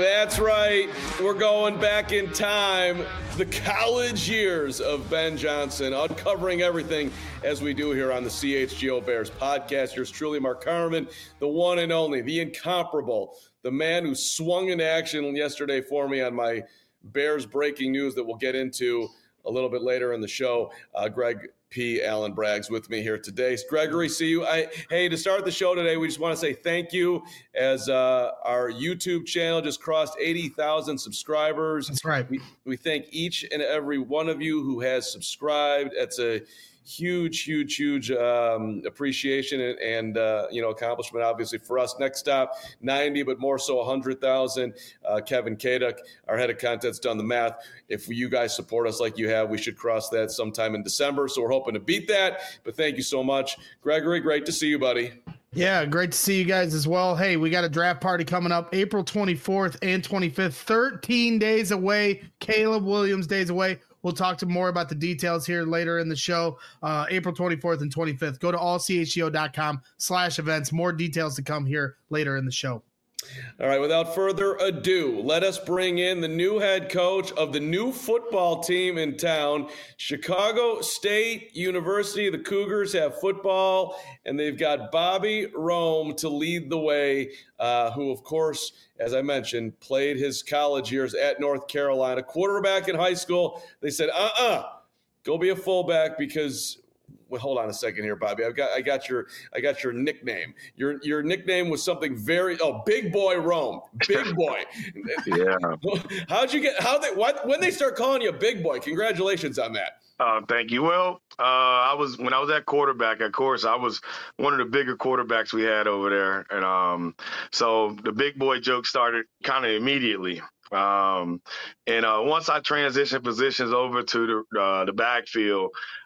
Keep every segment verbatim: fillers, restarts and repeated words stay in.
That's right. We're going back in time. The college years of Ben Johnson, uncovering everything as we do here on the C H G O Bears podcast. Yours truly, Mark Carman, the one and only, the incomparable, the man who swung into action yesterday for me on my Bears breaking news that we'll get into a little bit later in the show. Uh, Greg P. Allen Bragg's with me here today. Gregory, see you. I, hey, to start the show today, we just want to say thank you as uh, our YouTube channel just crossed eighty thousand subscribers. That's right. We, we thank each and every one of you who has subscribed. It's a huge, huge, huge um, appreciation and, and uh, you know, accomplishment, obviously, for us. Next stop, ninety, but more so one hundred thousand. Uh, Kevin Kaduk, our head of content's done the math. If you guys support us like you have, we should cross that sometime in December. So we're hoping to beat that. But thank you so much. Gregory, great to see you, buddy. Yeah, great to see you guys as well. Hey, we got a draft party coming up April twenty-fourth and twenty-fifth, thirteen days away. Caleb Williams days away. We'll talk to more about the details here later in the show. Uh, April twenty-fourth and twenty-fifth. Go to all c h g o dot com slash events. More details to come here later in the show. All right, without further ado, let us bring in the new head coach of the new football team in town, Chicago State University. The Cougars have football, and they've got Bobby Rome to lead the way, uh, who, of course, as I mentioned, played his college years at North Carolina. Quarterback in high school, they said, uh-uh, go be a fullback because – well, hold on a second here, Bobby. I've got I got your I got your nickname. Your your nickname was something very oh Big Boy Rome. Big Boy. Yeah. How'd you get how they what when they start calling you Big Boy? Congratulations on that. Uh, thank you. Well, uh, I was when I was at quarterback, of course, I was one of the bigger quarterbacks we had over there. And um, so the big boy joke started kind of immediately. Um, and uh, once I transitioned positions over to the uh, the backfield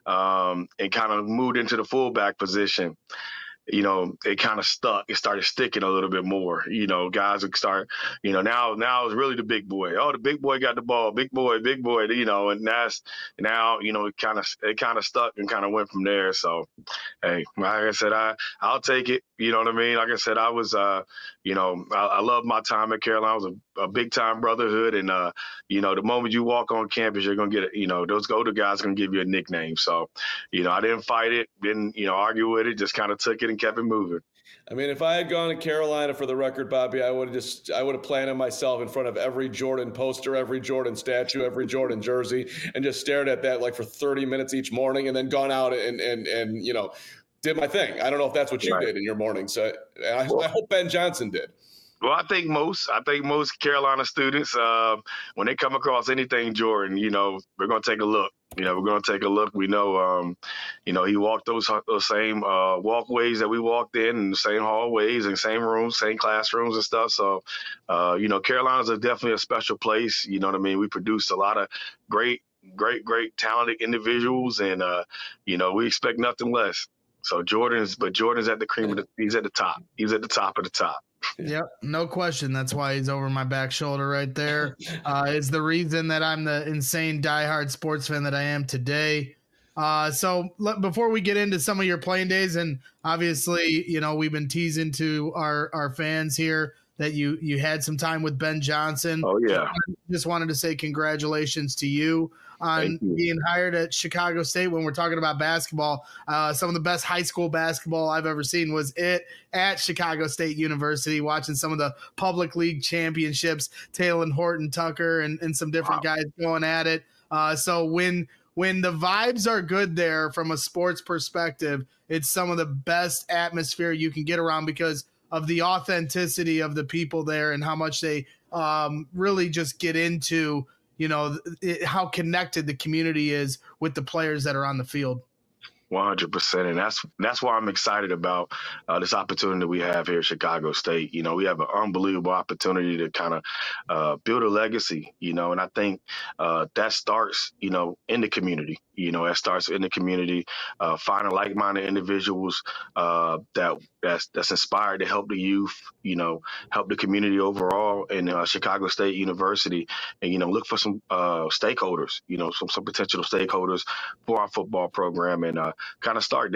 um, and kind of moved into the fullback position, you know, it kind of stuck. It started sticking a little bit more. You know, guys would start, you know, now now it's really the big boy. Oh, the big boy got the ball. Big boy, big boy, you know, and that's now, you know, it kind of it kind of stuck and kind of went from there. So, hey, like I said, I, I'll take it. You know what I mean? Like I said, I was, uh, you know, I, I love my time at Carolina. I was a, a big time brotherhood. And, uh, you know, the moment you walk on campus, you're going to get, you know, those older guys going to give you a nickname. So, you know, I didn't fight it, didn't, you know, argue with it, just kind of took it and kept it moving. I mean, if I had gone to Carolina, for the record, Bobby, I would have just I would have planted myself in front of every Jordan poster, every Jordan statue, every Jordan jersey, and just stared at that like for thirty minutes each morning, and then gone out and and and you know, did my thing. I don't know if that's what you Right. did in your morning. So I, Well, I hope Ben Johnson did. Well, I think most, I think most Carolina students, uh, when they come across anything Jordan, you know, we're going to take a look. You know, we're going to take a look. We know, um, you know, he walked those those same uh, walkways that we walked in, and the same hallways and same rooms, same classrooms and stuff. So, uh, you know, Carolina's a definitely a special place. You know what I mean? We produce a lot of great, great, great talented individuals, and uh, you know, we expect nothing less. So Jordan's, but Jordan's at the cream of the, he's at the top. He's at the top of the top. Yep, no question. That's why he's over my back shoulder right there. Uh, it's the reason that I'm the insane diehard sports fan that I am today. Uh, so let, before we get into some of your playing days, and obviously, you know, we've been teasing to our, our fans here that you you had some time with Ben Johnson. Oh, yeah. Just wanted to say congratulations to you on you. being hired at Chicago State. When we're talking about basketball, uh, some of the best high school basketball I've ever seen was it at Chicago State University, watching some of the public league championships, Taylor Horton Tucker and, and some different wow. guys going at it. Uh, so when when the vibes are good there from a sports perspective, it's some of the best atmosphere you can get around because of the authenticity of the people there and how much they um, really just get into, you know, it, how connected the community is with the players that are on the field. one hundred percent. And that's that's why I'm excited about uh, this opportunity that we have here at Chicago State. You know, we have an unbelievable opportunity to kind of uh, build a legacy, you know, and I think uh, that starts, you know, in the community. You know, that starts in the community, uh, finding like-minded individuals uh, that that's, that's inspired to help the youth, you know, help the community overall in uh, Chicago State University, and, you know, look for some uh, stakeholders, you know, some, some potential stakeholders for our football program and uh, kind of start there.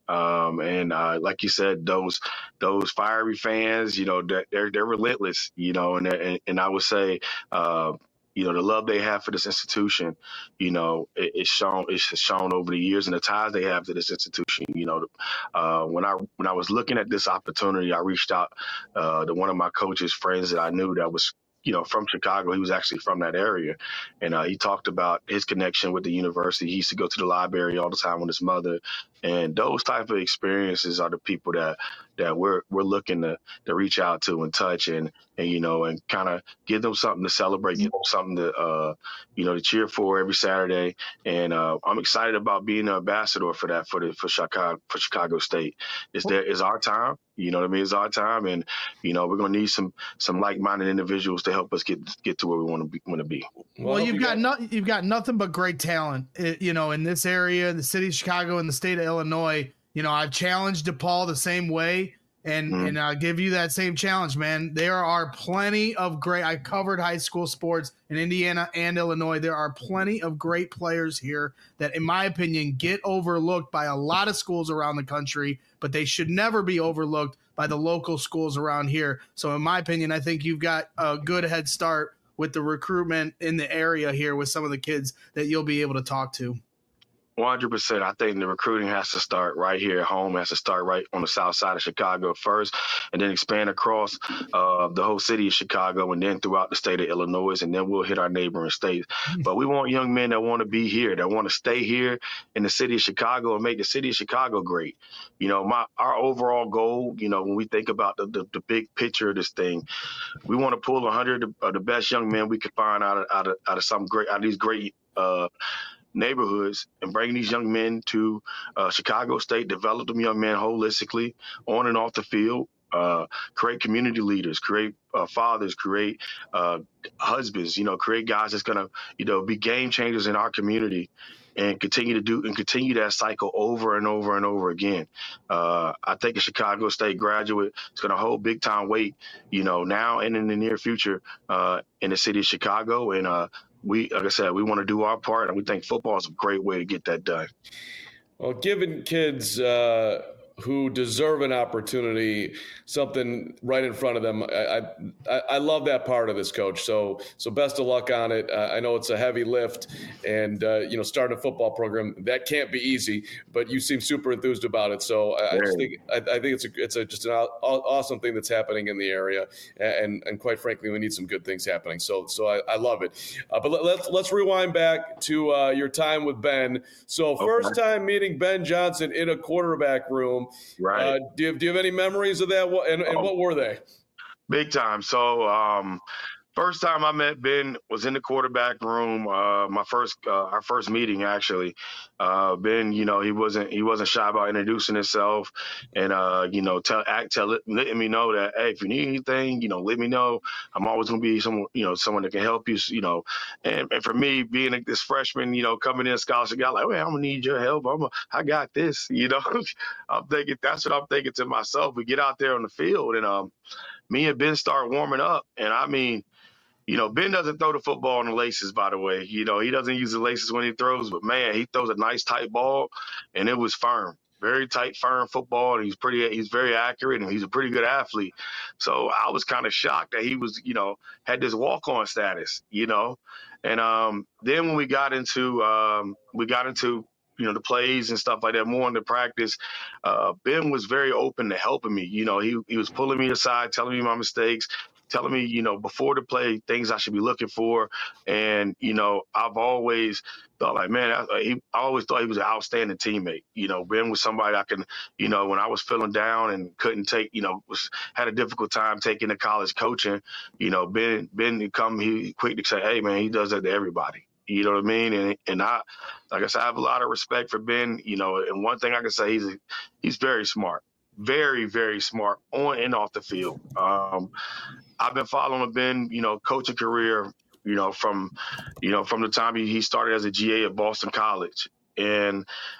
Um, and uh, like you said, those those fiery fans, you know, they're they're relentless, you know, and and, and I would say, uh, you know, the love they have for this institution, you know, it, it's shown it's shown over the years, and the ties they have to this institution. You know, uh, when I when I was looking at this opportunity, I reached out uh, to one of my coach's friends that I knew that was, you know, from Chicago. He was actually from that area. And uh, he talked about his connection with the university. He used to go to the library all the time with his mother. And those type of experiences are the people that that we're we're looking to to reach out to and touch and and you know and kind of give them something to celebrate, give them something to uh you know to cheer for every Saturday. And uh, I'm excited about being an ambassador for that for the for Chicago for Chicago State. It's there is our time. You know what I mean? It's our time, and you know we're gonna need some some like-minded individuals to help us get get to where we want to be. Want to be. Well, well you've got no, you've got nothing but great talent, you know, in this area, in the city of Chicago, in the state of Illinois. You know, I've challenged DePaul the same way, and mm. and I'll give you that same challenge, man. There are plenty of great. I covered high school sports in Indiana and Illinois. There are plenty of great players here that, in my opinion, get overlooked by a lot of schools around the country, but they should never be overlooked by the local schools around here. So, in my opinion, I think you've got a good head start with the recruitment in the area here with some of the kids that you'll be able to talk to. one hundred percent. I think the recruiting has to start right here at home. It has to start right on the south side of Chicago first, and then expand across uh, the whole city of Chicago, and then throughout the state of Illinois, and then we'll hit our neighboring states. But we want young men that want to be here, that want to stay here in the city of Chicago and make the city of Chicago great. You know, my our overall goal, you know, when we think about the, the, the big picture of this thing, we want to pull one hundred of the best young men we could find out of, out of, out of some great, out of these great uh neighborhoods, and bring these young men to uh, Chicago State, develop them young men holistically on and off the field, uh, create community leaders, create uh, fathers, create uh, husbands, you know, create guys that's going to, you know, be game changers in our community, and continue to do and continue that cycle over and over and over again. Uh, I think a Chicago State graduate is going to hold big time weight, you know, now and in the near future uh, in the city of Chicago. And uh, we, like I said, we want to do our part, and we think football is a great way to get that done. Well, giving kids uh, who deserve an opportunity something right in front of them, I, I I love that part of this, Coach. So so best of luck on it. Uh, I know it's a heavy lift, and uh, you know, starting a football program, that can't be easy. But you seem super enthused about it. So I, I just think I, I think it's a it's a just an awesome thing that's happening in the area, and and quite frankly, we need some good things happening. So so I, I love it. Uh, but let, let's let's rewind back to uh, your time with Ben. So first okay. time meeting Ben Johnson in a quarterback room. Right. Uh, do, you, do you have any memories of that? And, and oh, what were they? Big time. So um, first time I met Ben was in the quarterback room. Uh, my first, uh, our first meeting actually. Uh, Ben, you know, he wasn't he wasn't shy about introducing himself, and uh, you know, tell act tell it, letting me know that, hey, if you need anything, you know, let me know. I'm always gonna be someone, you know, someone that can help you, you know. And, and for me, being a, this freshman, you know, coming in scholarship guy, like, well, I'm gonna need your help. I'm a, I got this, you know. I'm thinking that's what I'm thinking to myself. We get out there on the field, and um, me and Ben start warming up, and I mean. You know, Ben doesn't throw the football on the laces, by the way. You know, he doesn't use the laces when he throws, but, man, he throws a nice tight ball, and it was firm. Very tight, firm football, and he's pretty. He's very accurate, and he's a pretty good athlete. So I was kind of shocked that he was, you know, had this walk-on status, you know. And um, then when we got into um, we got into you know, the plays and stuff like that, more into practice, uh, Ben was very open to helping me. You know, he he was pulling me aside, telling me my mistakes, telling me, you know, before the play, things I should be looking for. And, you know, I've always thought like, man, I, he, I always thought he was an outstanding teammate. You know, Ben was somebody I can, you know, when I was feeling down and couldn't take, you know, was had a difficult time taking the college coaching, you know, Ben, Ben would come, he quick to say, hey, man, he does that to everybody. You know what I mean? And and I, like I said, I have a lot of respect for Ben, you know, and one thing I can say, he's a, he's very smart. Very, very smart on and off the field. Um, I've been following Ben, you know, coaching career, you know, from, you know, from the time he, he started as a G A at Boston College. And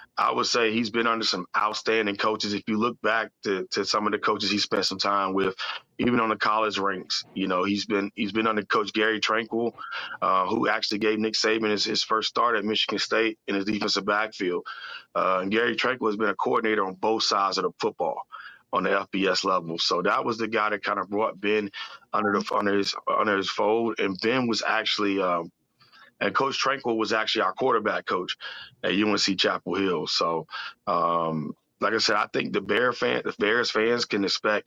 I would say he's been under some outstanding coaches. If you look back to, to some of the coaches he spent some time with, even on the college ranks, you know, he's been he's been under Coach Gary Tranquill, uh, who actually gave Nick Saban his, his first start at Michigan State in his defensive backfield. Uh, and Gary Tranquill has been a coordinator on both sides of the football on the F B S level. So that was the guy that kind of brought Ben under the under his under his fold. And Ben was actually um, and Coach Tranquill was actually our quarterback coach at U N C Chapel Hill. So, um, like I said, I think the Bear fan, the Bears fans can expect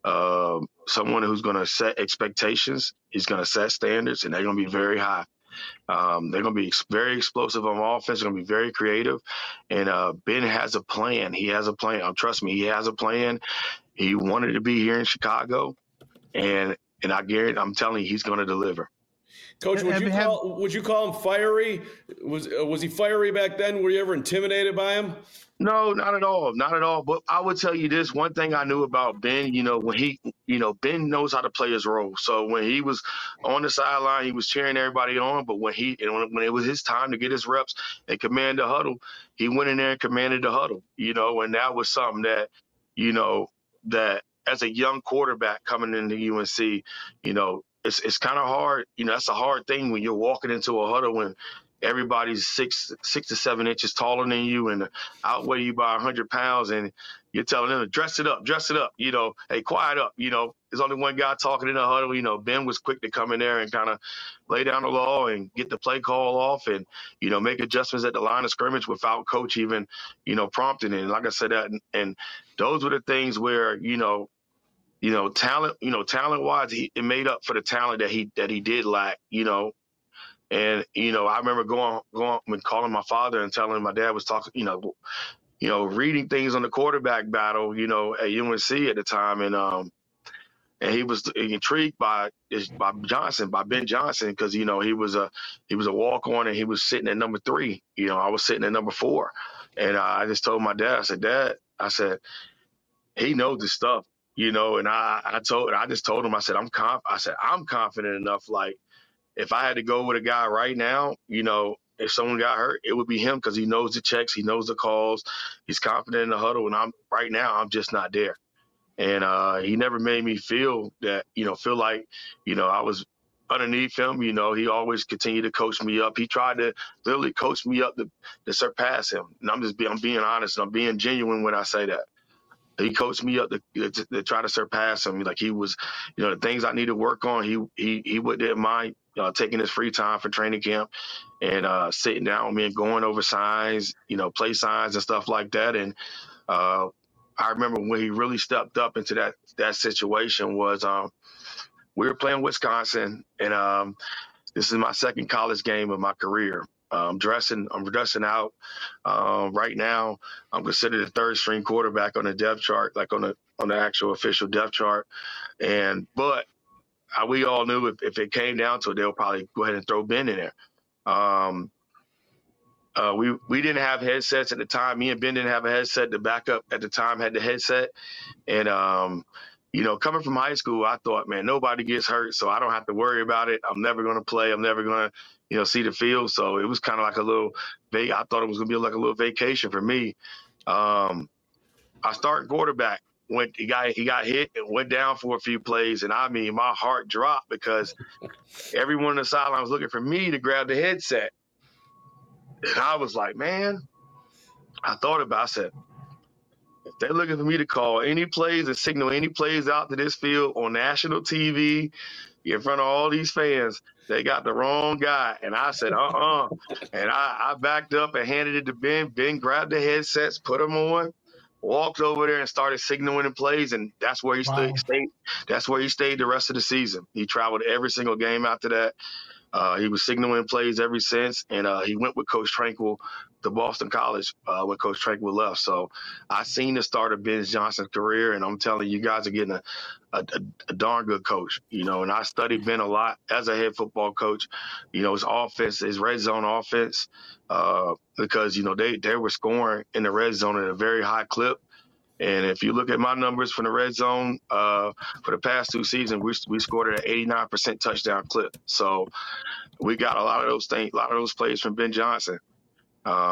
uh, someone who's going to set expectations. He's going to set standards, and they're going to be very high. Um, they're going to be very explosive on offense. They're going to be very creative. And uh, Ben has a plan. He has a plan. Um, trust me, he has a plan. He wanted to be here in Chicago, and and I guarantee, I'm telling you, he's going to deliver. Coach, would you call would you call him fiery? Was uh, was he fiery back then? Were you ever intimidated by him? No, not at all. Not at all. But I would tell you this, one thing I knew about Ben, you know, when he, you know, Ben knows how to play his role. So when he was on the sideline, he was cheering everybody on. But when he, and when it was his time to get his reps and command the huddle, he went in there and commanded the huddle, you know, and that was something that, you know, that as a young quarterback coming into U N C, you know, it's it's kind of hard. You know, that's a hard thing when you're walking into a huddle when everybody's six six to seven inches taller than you and outweigh you by a hundred pounds, and you're telling them to dress it up, dress it up. You know, hey, quiet up. You know, there's only one guy talking in the huddle. You know, Ben was quick to come in there and kind of lay down the law and get the play call off, and you know, make adjustments at the line of scrimmage without coach even, you know, prompting it. And like I said, that and, and those were the things where you know. You know, talent. You know, talent-wise, he it made up for the talent that he that he did lack. You know, and you know, I remember going going and calling my father and telling him my dad was talking. You know, you know, reading things on the quarterback battle. You know, at U N C at the time, and um, and he was intrigued by by Johnson, by Ben Johnson, because you know he was a he was a walk-on and he was sitting at number three. You know, I was sitting at number four, and uh, I just told my dad, I said, Dad, I said, he knows this stuff. You know, and I, I told, I just told him, I said, I'm conf- I said, I'm confident enough. Like, if I had to go with a guy right now, you know, if someone got hurt, it would be him because he knows the checks, he knows the calls, he's confident in the huddle. And I'm right now, I'm just not there. And uh, he never made me feel that, you know, feel like, you know, I was underneath him. You know, he always continued to coach me up. He tried to literally coach me up to, to surpass him. And I'm just being, I'm being honest and I'm being genuine when I say that. He coached me up to, to, to try to surpass him. Like he was, you know, the things I need to work on. He he he wouldn't mind uh, taking his free time for training camp and uh, sitting down with me and going over signs, you know, play signs and stuff like that. And uh, I remember when he really stepped up into that that situation was um, we were playing Wisconsin, and um, this is my second college game of my career. I'm dressing. I'm dressing out. Um, right now, I'm considered a third string quarterback on the depth chart, like on the on the actual official depth chart. And but uh, we all knew if, if it came down to it, they'll probably go ahead and throw Ben in there. Um, uh, we we didn't have headsets at the time. Me and Ben didn't have a headset. The backup at the time had the headset, and um, you know, coming from high school, I thought, man, nobody gets hurt, so I don't have to worry about it. I'm never going to play. I'm never going to, you know, see the field. So it was kind of like a little, I thought it was going to be like a little vacation for me. Um, I started quarterback. Went, he got he got hit and went down for a few plays, and I mean, my heart dropped because everyone on the sideline was looking for me to grab the headset. And I was like, man, I thought about it. I said, if they're looking for me to call any plays and signal any plays out to this field on national T V in front of all these fans, they got the wrong guy. And I said, uh-uh. And I, I backed up and handed it to Ben. Ben grabbed the headsets, put them on, walked over there and started signaling the plays. And that's where he wow. stayed, stayed. That's where he stayed the rest of the season. He traveled every single game after that. Uh, he was signaling plays ever since, and uh, he went with Coach Tranquill to Boston College uh, when Coach Tranquill left. So I seen the start of Ben Johnson's career, and I'm telling you, you guys are getting a, a, a darn good coach, you know, and I studied Ben a lot as a head football coach, you know, his offense, his red zone offense, uh, because, you know, they, they were scoring in the red zone at a very high clip. And if you look at my numbers from the red zone uh, for the past two seasons, we we scored at an eighty-nine percent touchdown clip. So we got a lot of those things, a lot of those plays from Ben Johnson. Um,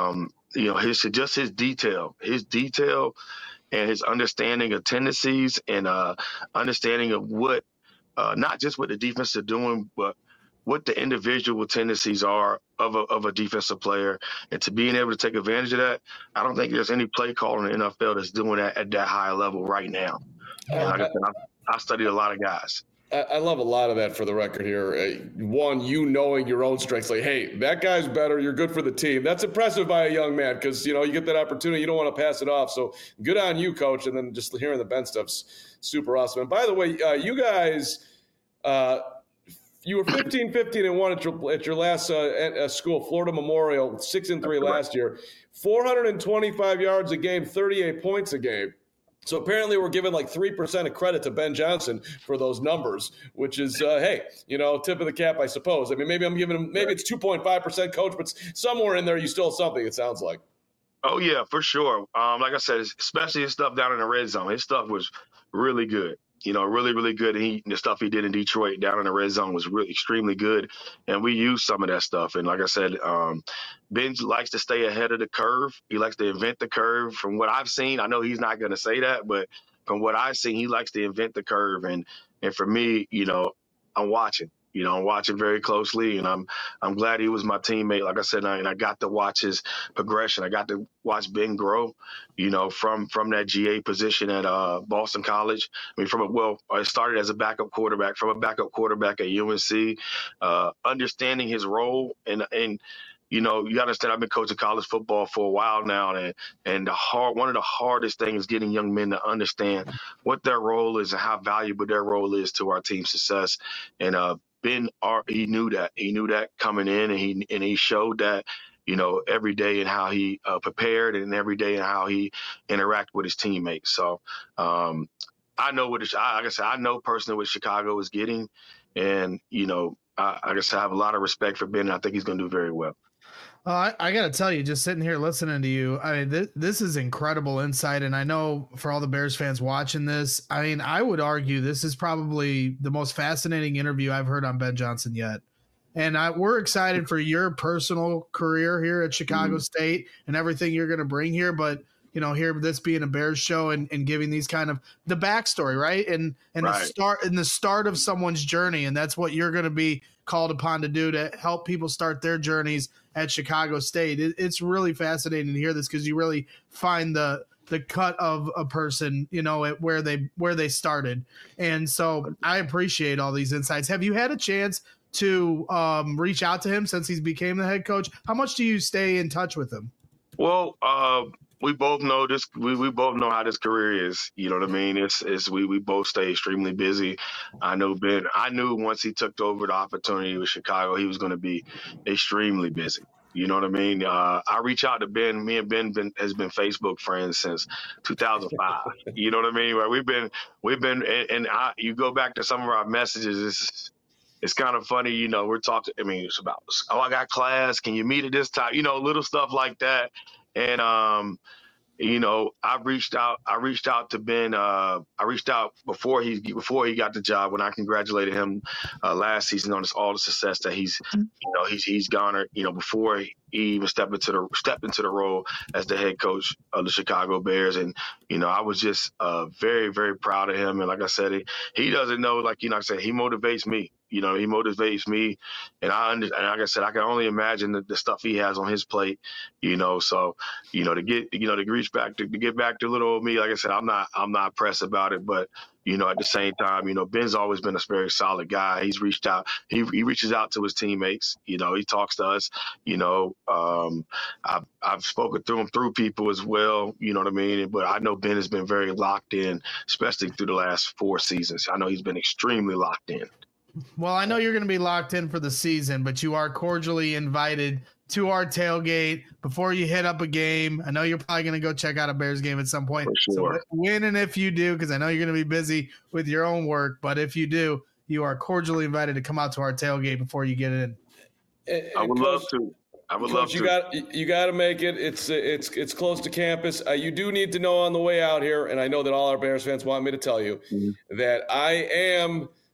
you know, his just his detail, his detail, and his understanding of tendencies and uh, understanding of what, uh, not just what the defense are doing, but what the individual tendencies are of a of a defensive player, and to being able to take advantage of that. I don't think there's any play call in the N F L that's doing that at that high level right now. And like I said, I, I studied a lot of guys. I love a lot of that for the record here. Uh, one, you knowing your own strengths, like, hey, that guy's better. You're good for the team. That's impressive by a young man because, you know, you get that opportunity. You don't want to pass it off. So good on you, Coach. And then just hearing the Ben stuff's super awesome. And by the way, uh, you guys, uh, you were fifteen, fifteen, and one at your, at your last uh, at, uh, school, Florida Memorial, six and three last year, four hundred twenty-five yards a game, thirty-eight points a game. So apparently we're giving like three percent of credit to Ben Johnson for those numbers, which is, uh, hey, you know, tip of the cap, I suppose. I mean, maybe I'm giving him, maybe it's two point five percent, Coach, but somewhere in there you still have something, it sounds like. Oh, yeah, for sure. Um, like I said, especially his stuff down in the red zone. His stuff was really good. You know, really, really good. And he, the stuff he did in Detroit down in the red zone was really extremely good. And we used some of that stuff. And like I said, um, Ben likes to stay ahead of the curve. He likes to invent the curve. From what I've seen, I know he's not going to say that, but from what I've seen, he likes to invent the curve. And and for me, you know, I'm watching. You know, I'm watching very closely, and I'm I'm glad he was my teammate. Like I said, and I, and I got to watch his progression. I got to watch Ben grow, you know, from from that G A position at uh, Boston College. I mean, from a well, I started as a backup quarterback, from a backup quarterback at U N C, uh, understanding his role and and. You know, you understand I've been coaching college football for a while now, and and the hard one of the hardest things is getting young men to understand what their role is and how valuable their role is to our team's success. And uh, Ben, he knew that. He knew that coming in, and he and he showed that, you know, every day and how he uh, prepared, and every day and how he interacted with his teammates. So um, I know what, it, like I said, I know personally what Chicago is getting, and you know, I, I guess I have a lot of respect for Ben, and I think he's going to do very well. Uh, I, I got to tell you, just sitting here listening to you, I mean, th- this is incredible insight. And I know for all the Bears fans watching this, I mean, I would argue this is probably the most fascinating interview I've heard on Ben Johnson yet. And I, we're excited for your personal career here at Chicago mm-hmm. State and everything you're going to bring here. But, you know, here, this being a Bears show and, and giving these kind of the backstory, right? And, and right. the start and the start of someone's journey. And that's what you're going to be called upon to do, to help people start their journeys at Chicago State. It, it's really fascinating to hear this because you really find the the cut of a person, you know, at where they where they started. And so I appreciate all these insights. Have you had a chance to um, reach out to him since he's became the head coach? How much do you stay in touch with him? Well, uh, we both know this. We, we both know how this career is. You know what I mean? It's it's we we both stay extremely busy. I know Ben. I knew once he took over the opportunity with Chicago, he was going to be extremely busy. You know what I mean? Uh, I reach out to Ben. Me and Ben been, has been Facebook friends since two thousand five. You know what I mean? Right? We've been we've been and, and I, you go back to some of our messages. It's it's kind of funny. You know, we're talking. I mean, it's about, oh, I got class. Can you meet at this time? You know, little stuff like that. And, um, you know, I reached out, I reached out to Ben. Uh, I reached out before he, before he got the job, when I congratulated him uh, last season on this, all the success that he's, you know, he's, he's garnered, you know, before he even stepped into the, stepped into the role as the head coach of the Chicago Bears. And, you know, I was just uh, very, very proud of him. And like I said, he, he doesn't know, like, you know, I said, he motivates me. You know, he motivates me, and I and like I said, I can only imagine the, the stuff he has on his plate. You know, so you know to get you know to reach back to, to get back to little old me. Like I said, I'm not I'm not pressed about it, but you know, at the same time, you know, Ben's always been a very solid guy. He's reached out. He he reaches out to his teammates. You know, he talks to us. You know, um, I've I've spoken through him through people as well. You know what I mean? But I know Ben has been very locked in, especially through the last four seasons. I know he's been extremely locked in. Well, I know you're going to be locked in for the season, but you are cordially invited to our tailgate before you hit up a game. I know you're probably going to go check out a Bears game at some point. For sure. So when and if you do, because I know you're going to be busy with your own work, but if you do, you are cordially invited to come out to our tailgate before you get in. And, I would Coach, love to. I would Coach, love you to. got you got to make it. It's it's it's close to campus. Uh, you do need to know on the way out here, and I know that all our Bears fans want me to tell you mm-hmm. that I am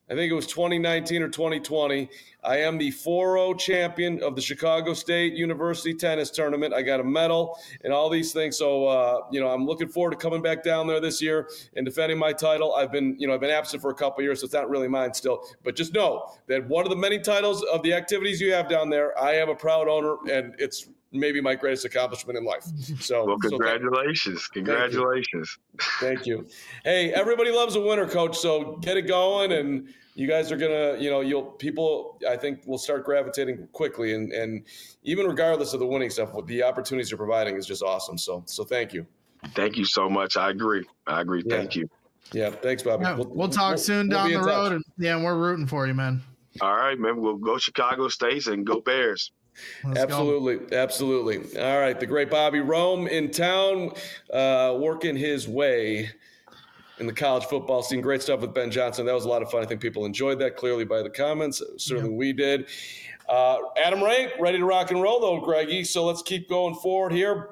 I think it was twenty nineteen or twenty twenty. I am the four oh champion of the Chicago State University tennis tournament. I got a medal and all these things. So, uh, you know, I'm looking forward to coming back down there this year and defending my title. I've been, you know, I've been absent for a couple of years, so it's not really mine still. But just know that one of the many titles of the activities you have down there, I am a proud owner, and it's maybe my greatest accomplishment in life. So, well, congratulations. So thank, congratulations. Thank you. Hey, everybody loves a winner, Coach. So get it going, and you guys are gonna, you know, you'll people I think will start gravitating quickly, and and even regardless of the winning stuff, what the opportunities you're providing is just awesome. So so thank you. Thank you so much. I agree. I agree. Yeah. Thank you. Yeah, thanks, Bobby. Yeah, we'll, we'll talk we'll, soon we'll down the road, and, yeah, and we're rooting for you, man. All right, man. We'll go Chicago State and go Bears. Let's absolutely, go. absolutely. All right, the great Bobby Rome in town, uh, working his way in the college football scene. Great stuff with Ben Johnson. That was a lot of fun. I think people enjoyed that clearly by the comments. Certainly yeah. we did. Uh, Adam Rank, ready to rock and roll though, Greggy. So let's keep going forward here.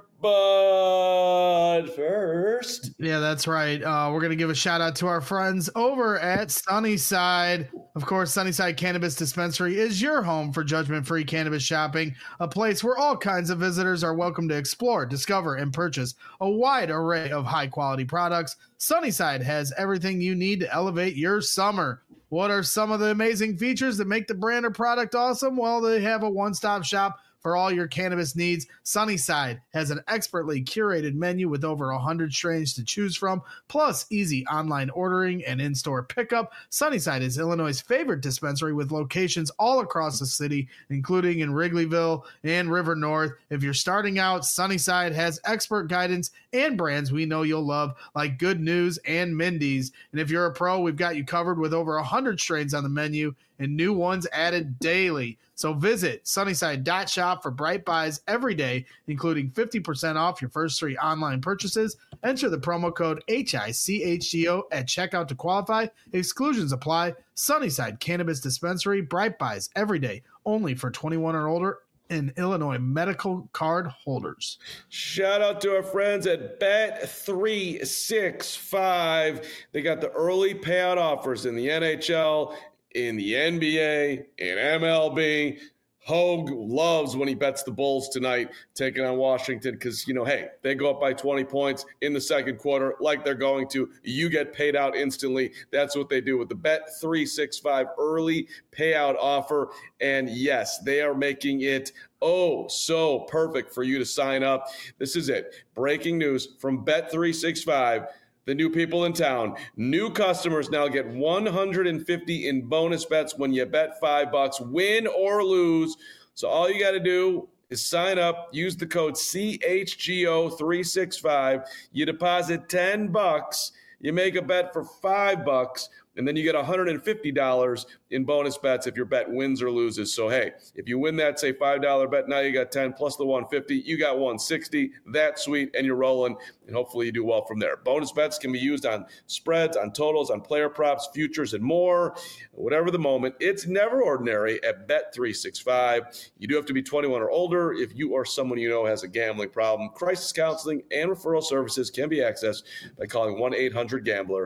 But first. Yeah, that's right. Uh, we're going to give a shout out to our friends over at Sunnyside. Of course, Sunnyside Cannabis Dispensary is your home for judgment-free cannabis shopping, a place where all kinds of visitors are welcome to explore, discover, and purchase a wide array of high-quality products. Sunnyside has everything you need to elevate your summer. What are some of the amazing features that make the brand or product awesome? Well, they have a one-stop shop for all your cannabis needs. Sunnyside has an expertly curated menu with over one hundred strains to choose from, plus easy online ordering and in-store pickup. Sunnyside is Illinois' favorite dispensary with locations all across the city, including in Wrigleyville and River North. If you're starting out, Sunnyside has expert guidance and brands we know you'll love, like Good News and Mindy's. And if you're a pro, we've got you covered with over one hundred strains on the menu and new ones added daily. So visit sunnyside dot shop for bright buys every day, including fifty percent off your first three online purchases. Enter the promo code H I C H G O at checkout to qualify. Exclusions apply. Sunnyside Cannabis Dispensary, bright buys every day, only for twenty-one or older in Illinois medical card holders. Shout out to our friends at Bet three sixty-five. They got the early payout offers in the N H L, in the N B A, in M L B. Hogue loves when he bets the Bulls tonight taking on Washington because, you know, hey, they go up by twenty points in the second quarter like they're going to. You get paid out instantly. That's what they do with the Bet three sixty-five early payout offer. And yes, they are making it oh so perfect for you to sign up. This is it. Breaking news from Bet three sixty-five. The new people in town. New customers now get one hundred fifty in bonus bets when you bet five bucks, win or lose. So all you got to do is sign up, use the code C H G O three sixty-five. You deposit ten bucks, you make a bet for five bucks, and then you get one hundred fifty dollars in bonus bets if your bet wins or loses. So, hey, if you win that, say, five dollar bet, now you got ten plus the one hundred fifty. You got one hundred sixty. That's sweet, and you're rolling, and hopefully you do well from there. Bonus bets can be used on spreads, on totals, on player props, futures, and more. Whatever the moment, it's never ordinary at Bet three sixty-five. You do have to be twenty-one or older if you or someone you know has a gambling problem. Crisis counseling and referral services can be accessed by calling one eight hundred gambler.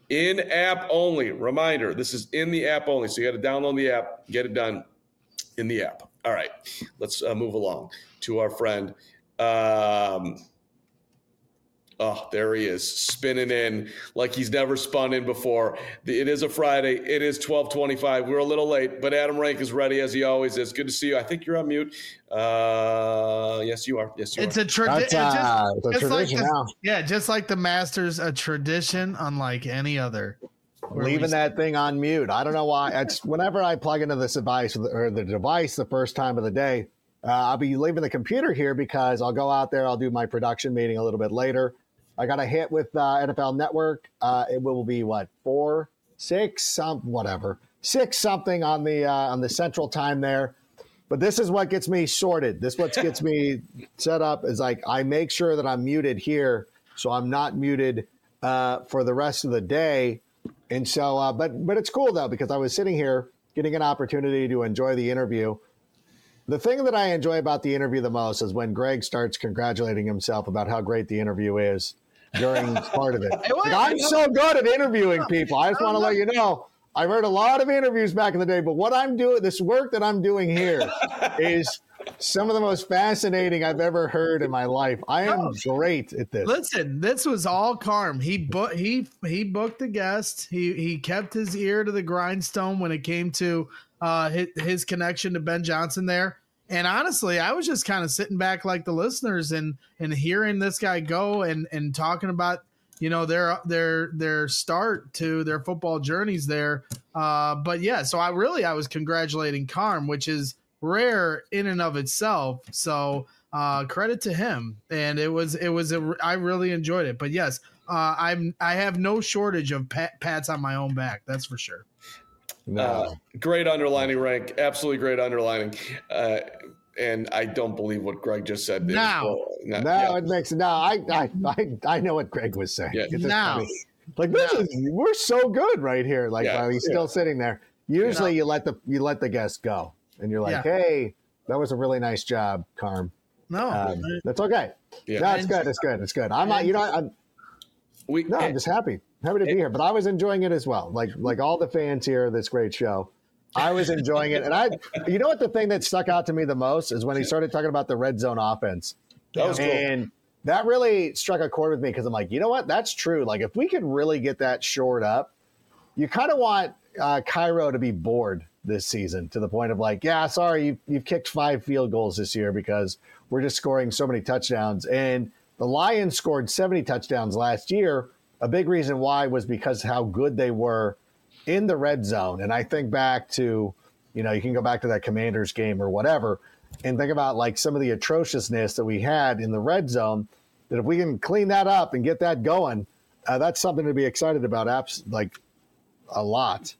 In-app only. Reminder, this is in the app only. So you got to download the app, get it done in the app. All right, let's uh, move along to our friend. Um, oh, there he is, spinning in like he's never spun in before. It is a Friday. It is twelve twenty-five. We're a little late, but Adam Rank is ready as he always is. Good to see you. I think you're on mute. Uh, yes, you are. Yes, you it's are. A tradi- That's, uh, just, it's a tradition like the, now. Yeah, just like the Masters, a tradition unlike any other. Leaving that thing on mute. I don't know why. It's whenever I plug into this device or the device the first time of the day, uh, I'll be leaving the computer here because I'll go out there. I'll do my production meeting a little bit later. I got a hit with uh, N F L Network. Uh, it will be what four, six, some whatever, six something on the uh, on the Central Time there. But this is what gets me sorted. This what gets me set up is like I make sure that I'm muted here, so I'm not muted uh, for the rest of the day. And so, uh, but but it's cool though because I was sitting here getting an opportunity to enjoy the interview. The thing that I enjoy about the interview the most is when Greg starts congratulating himself about how great the interview is during part of it. Like, I'm so good at interviewing people. I just want to let you know I've heard a lot of interviews back in the day, but what I'm doing, this work that I'm doing here is some of the most fascinating I've ever heard in my life. I am oh, great at this. Listen, this was all Carm. He booked he he booked the guest. He he kept his ear to the grindstone when it came to uh, his, his connection to Ben Johnson there. And honestly, I was just kind of sitting back like the listeners and and hearing this guy go and and talking about, you know, their their their start to their football journeys there. Uh, but yeah, so I really I was congratulating Carm, which is rare in and of itself. So uh, credit to him. And it was it was a I really enjoyed it. But yes, uh, I'm I have no shortage of pat, pats on my own back. That's for sure. No. Uh, great underlining, Rank. Absolutely great underlining. Uh, and I don't believe what Greg just said. Now, no, no yeah. it makes no. I, I I I know what Greg was saying. Yeah. Now, funny. like this now. is we're so good right here. Like yeah. while he's still yeah. sitting there. Usually, you, know, you let the you let the guest go, and you're like, yeah. "Hey, that was a really nice job, Carm." No, um, that's okay. Yeah. No, it's good. It's good. It's good. I'm not. You know, I'm. We, no, I'm just happy. Happy to be here, but I was enjoying it as well. Like like all the fans here of this great show, I was enjoying it. And I, you know what, the thing that stuck out to me the most is when he started talking about the red zone offense. That was cool. And that really struck a chord with me because I'm like, you know what, that's true. Like if we could really get that shored up, you kind of want uh, Cairo to be bored this season to the point of like, yeah, sorry, you, you've kicked five field goals this year because we're just scoring so many touchdowns. And the Lions scored seventy touchdowns last year. A big reason why was because how good they were in the red zone. And I think back to, you know, you can go back to that Commanders game or whatever and think about like some of the atrociousness that we had in the red zone, that if we can clean that up and get that going, uh, that's something to be excited about, apps like a lot.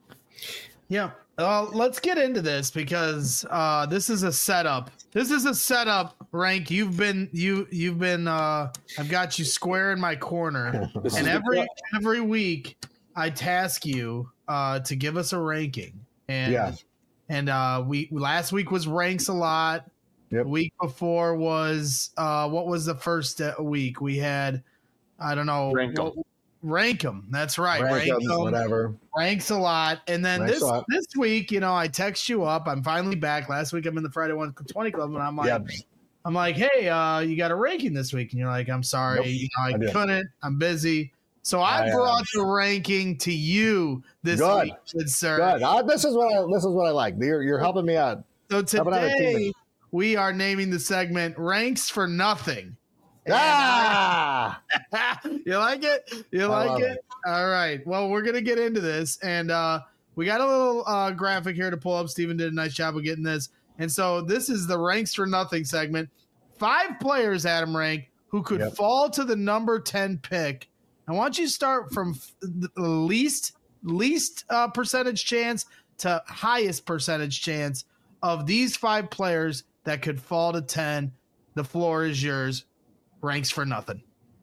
Yeah. Uh, let's get into this because uh, this is a setup. This is a setup, Rank. You've been you you've been uh, I've got you square in my corner, and every every week I task you uh, to give us a ranking. And yeah. and uh, we last week was ranks a lot. Yep. The week before was uh, what was the first week we had? I don't know. Rank 'em. Rank 'em. That's right. Rank, rank 'em, whatever. Ranks a lot. And then Ranks this this week, you know, I text you up. I'm finally back. Last week I'm in the Friday one twenty Club, and I'm like, yep. I'm like, hey, uh, you got a ranking this week? And you're like, I'm sorry, nope, you know, I, I couldn't. I'm busy. So I, I brought uh, the ranking to you this good. week, good sir. Good. Uh, this is what I, this is what I like. You're you're helping me out. So today we are naming the segment "Ranks for Nothing." Ah, you like it? You like it? it? All right. Well, we're gonna get into this, and uh, we got a little uh, graphic here to pull up. Steven did a nice job of getting this, and so this is the Ranks for Nothing segment. Five players, Adam Rank, who could yep. fall to the number ten pick. I want you to start from the least least uh, percentage chance to highest percentage chance of these five players that could fall to ten. The floor is yours. Ranks for nothing.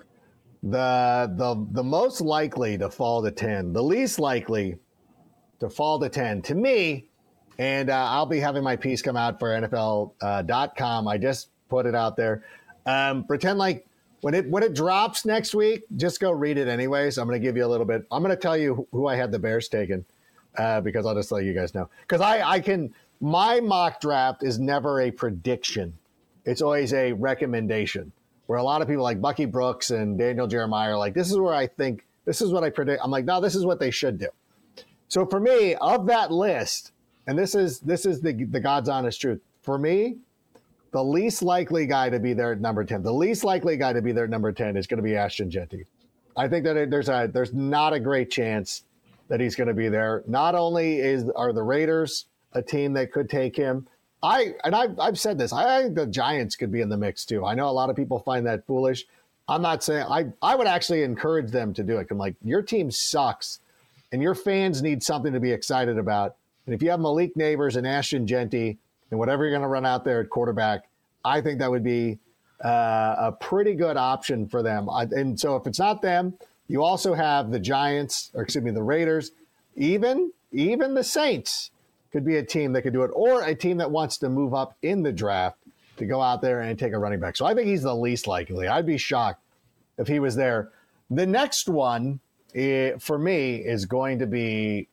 The the the most likely to fall to ten, the least likely to fall to ten to me, and uh, I'll be having my piece come out for N F L dot com. I just put it out there. Um, pretend like when it when it drops next week, just go read it anyways. I'm going to give you a little bit. I'm going to tell you who I had the Bears taken uh, because I'll just let you guys know. Because I, I can – my mock draft is never a prediction. It's always a recommendation. Where a lot of people like Bucky Brooks and Daniel Jeremiah are like, this is where I think, this is what I predict. I'm like, no, this is what they should do. So for me, of that list, and this is this is the, the God's honest truth, for me, the least likely guy to be there at number ten, the least likely guy to be there at number ten is going to be Ashton Jeanty. I think that there's a there's not a great chance that he's going to be there. Not only is are the Raiders a team that could take him, I and I've, I've said this. I think the Giants could be in the mix too. I know a lot of people find that foolish. I'm not saying I. I would actually encourage them to do it. I'm like, your team sucks, and your fans need something to be excited about. And if you have Malik Neighbors and Ashton Jeanty and whatever you're going to run out there at quarterback, I think that would be uh, a pretty good option for them. I, and so if it's not them, you also have the Giants, or excuse me, the Raiders, even even the Saints. Could be a team that could do it, or a team that wants to move up in the draft to go out there and take a running back. So I think he's the least likely. I'd be shocked if he was there. The next one, eh, for me, is going to be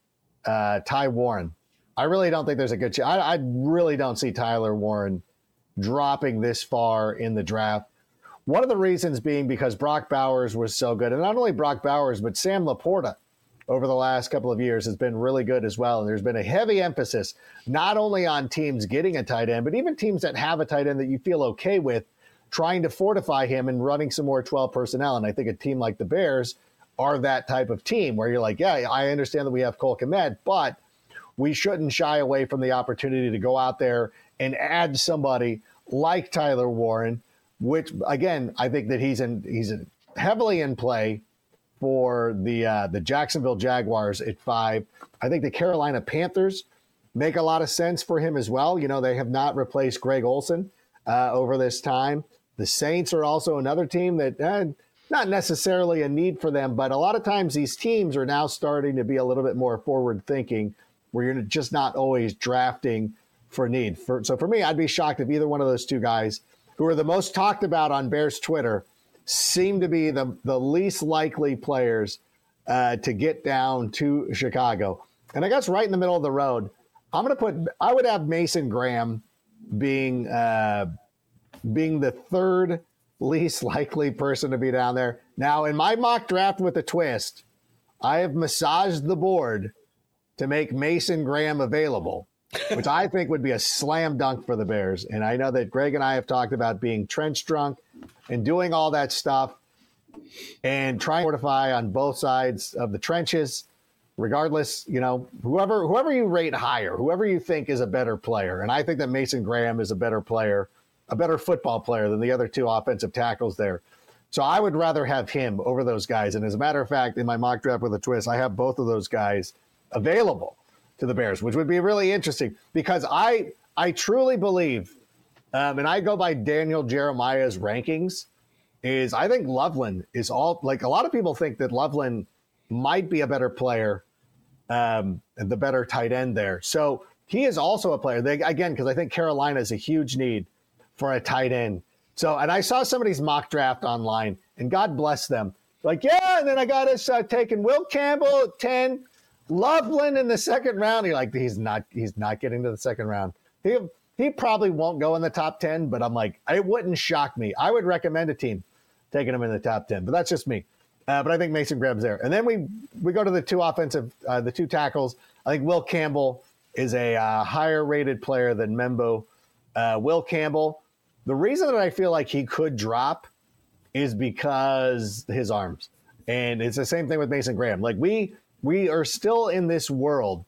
uh, Ty Warren. I really don't think there's a good chance. I, I really don't see Tyler Warren dropping this far in the draft. One of the reasons being because Brock Bowers was so good. And not only Brock Bowers, but Sam Laporta over the last couple of years has been really good as well. And there's been a heavy emphasis not only on teams getting a tight end, but even teams that have a tight end that you feel okay with, trying to fortify him and running some more twelve personnel. And I think a team like the Bears are that type of team where you're like, yeah, I understand that we have Cole Kmet, but we shouldn't shy away from the opportunity to go out there and add somebody like Tyler Warren, which, again, I think that he's in, he's in heavily in play for the uh, the Jacksonville Jaguars at five. I think the Carolina Panthers make a lot of sense for him as well. You know, they have not replaced Greg Olsen uh, over this time. The Saints are also another team that uh, not necessarily a need for them, but a lot of times these teams are now starting to be a little bit more forward thinking, where you're just not always drafting for need. For, so for me, I'd be shocked if either one of those two guys, who are the most talked about on Bears Twitter, seem to be the, the least likely players uh, to get down to Chicago. And I guess right in the middle of the road, I'm going to put, I would have Mason Graham being uh, being the third least likely person to be down there. Now, in my mock draft with a twist, I have massaged the board to make Mason Graham available, which I think would be a slam dunk for the Bears. And I know that Greg and I have talked about being trench drunk and doing all that stuff and trying to fortify on both sides of the trenches. Regardless, you know, whoever whoever you rate higher, whoever you think is a better player. And I think that Mason Graham is a better player, a better football player than the other two offensive tackles there. So I would rather have him over those guys. And as a matter of fact, in my mock draft with a twist, I have both of those guys available to the Bears, which would be really interesting because I I truly believe, um, and I go by Daniel Jeremiah's rankings, is I think Loveland is all, like a lot of people think that Loveland might be a better player, um, the better tight end there. So he is also a player, they, again, because I think Carolina is a huge need for a tight end. So, and I saw somebody's mock draft online, and God bless them. Like, yeah, and then I got us uh, taking Will Campbell at ten, Loveland in the second round. You're like, he's not, he's not getting to the second round. He he probably won't go in the top ten, but I'm like, it wouldn't shock me. I would recommend a team taking him in the top ten, but that's just me. Uh, but I think Mason Graham's there. And then we we go to the two offensive, uh, the two tackles. I think Will Campbell is a uh, higher rated player than Membo. Uh, Will Campbell, the reason that I feel like he could drop is because his arms. And it's the same thing with Mason Graham. Like we we are still in this world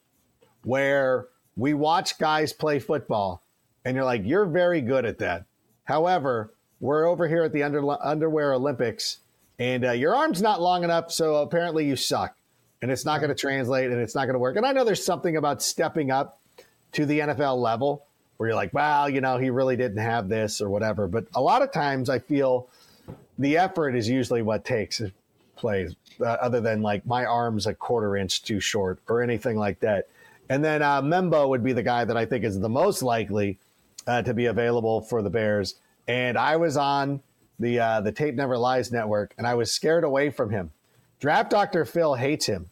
where we watch guys play football and you're like, you're very good at that. However, we're over here at the under, underwear Olympics and uh, your arm's not long enough, so apparently you suck. And it's not going to translate and it's not going to work. And I know there's something about stepping up to the N F L level where you're like, well, you know, he really didn't have this or whatever. But a lot of times I feel the effort is usually what takes plays, uh, other than like my arm's a quarter inch too short or anything like that. And then uh, Membo would be the guy that I think is the most likely uh, to be available for the Bears. And I was on the uh, the Tape Never Lies network, and I was scared away from him. Draft Doctor Phil hates him.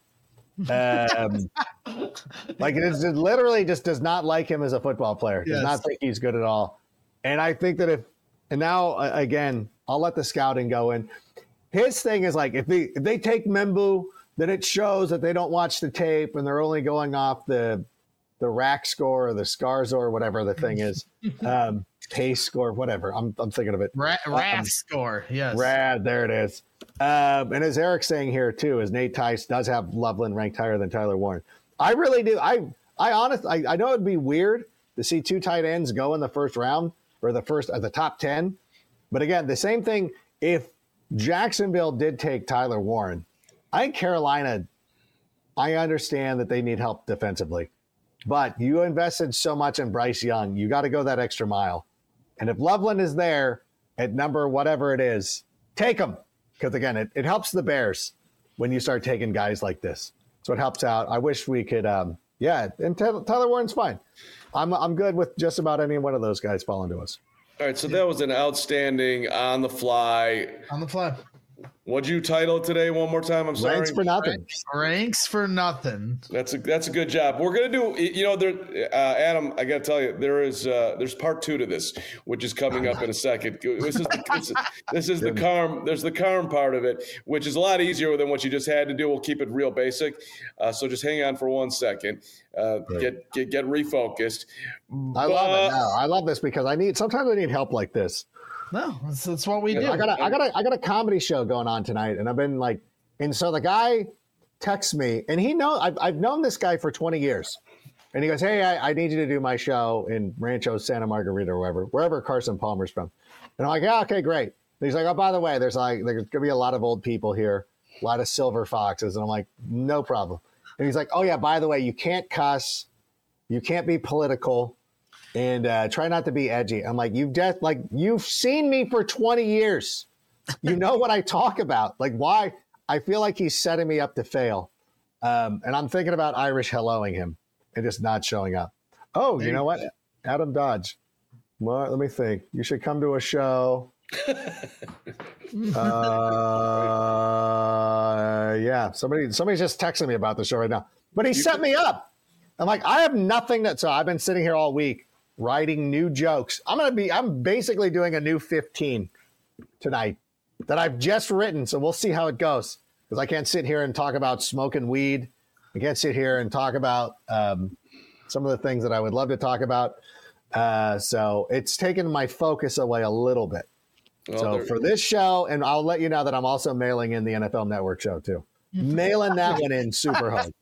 Um, like it, is, it literally just does not like him as a football player. Does yes. not think he's good at all. And I think that if, and now uh, again, I'll let the scouting go in. His thing is like, if they, if they take Membu, then it shows that they don't watch the tape and they're only going off the the rack score or the scars or whatever the thing is. Um, pace score, whatever. I'm I'm thinking of it. Ra- Rath um, score, yes. Rad, there it is. Um, and as Eric's saying here too, is Nate Tice does have Loveland ranked higher than Tyler Warren. I really do. I I honestly, I, I know it'd be weird to see two tight ends go in the first round or the first at the top ten. But again, the same thing. If Jacksonville did take Tyler Warren, I think Carolina, I understand that they need help defensively, but you invested so much in Bryce Young, you got to go that extra mile. And if Loveland is there at number whatever it is, take him. Because again, it, it helps the Bears when you start taking guys like this. So it helps out. I wish we could, um, yeah, and Tyler, Tyler Warren's fine. I'm I'm good with just about any one of those guys falling to us. All right, so that was an outstanding on the fly. On the fly. What'd you title it today? One more time. I'm sorry. Ranks for nothing. Ranks, ranks for nothing. That's a that's a good job. We're gonna do. You know, there, uh, Adam. I got to tell you, there is uh, there's part two to this, which is coming up in a second. This is the, this is, this is the Carm. There's the Carm part of it, which is a lot easier than what you just had to do. We'll keep it real basic. Uh, so just hang on for one second. Uh, get get get refocused. I love it. No, I love this because I need. Sometimes I need help like this. No, that's, that's what we do. I got a, I got a, I got a comedy show going on tonight, and I've been like, and so the guy texts me, and he know I've, I've known this guy for twenty years, and he goes, "Hey, I, I need you to do my show in Rancho Santa Margarita or wherever, wherever Carson Palmer's from." And I'm like, "Yeah, okay, great." And he's like, "Oh, by the way, there's like there's gonna be a lot of old people here, a lot of silver foxes," and I'm like, "No problem." And he's like, "Oh yeah, by the way, you can't cuss, you can't be political." And uh, try not to be edgy. I'm like, you've just like you've seen me for twenty years. You know what I talk about. Like, why? I feel like he's setting me up to fail. Um, and I'm thinking about Irish helloing him and just not showing up. Oh, you know what? Adam Dodge. Well, let me think. You should come to a show. uh, yeah, somebody somebody's just texting me about the show right now. But he set me up. I'm like, I have nothing that. So I've been sitting here all week writing new jokes. I'm going to be, I'm basically doing a new fifteen tonight that I've just written. So we'll see how it goes. Because I can't sit here and talk about smoking weed. I can't sit here and talk about um, some of the things that I would love to talk about. Uh, so it's taken my focus away a little bit. Well, so for this show, and I'll let you know that I'm also mailing in the N F L Network show too. Mailing that one in super hard.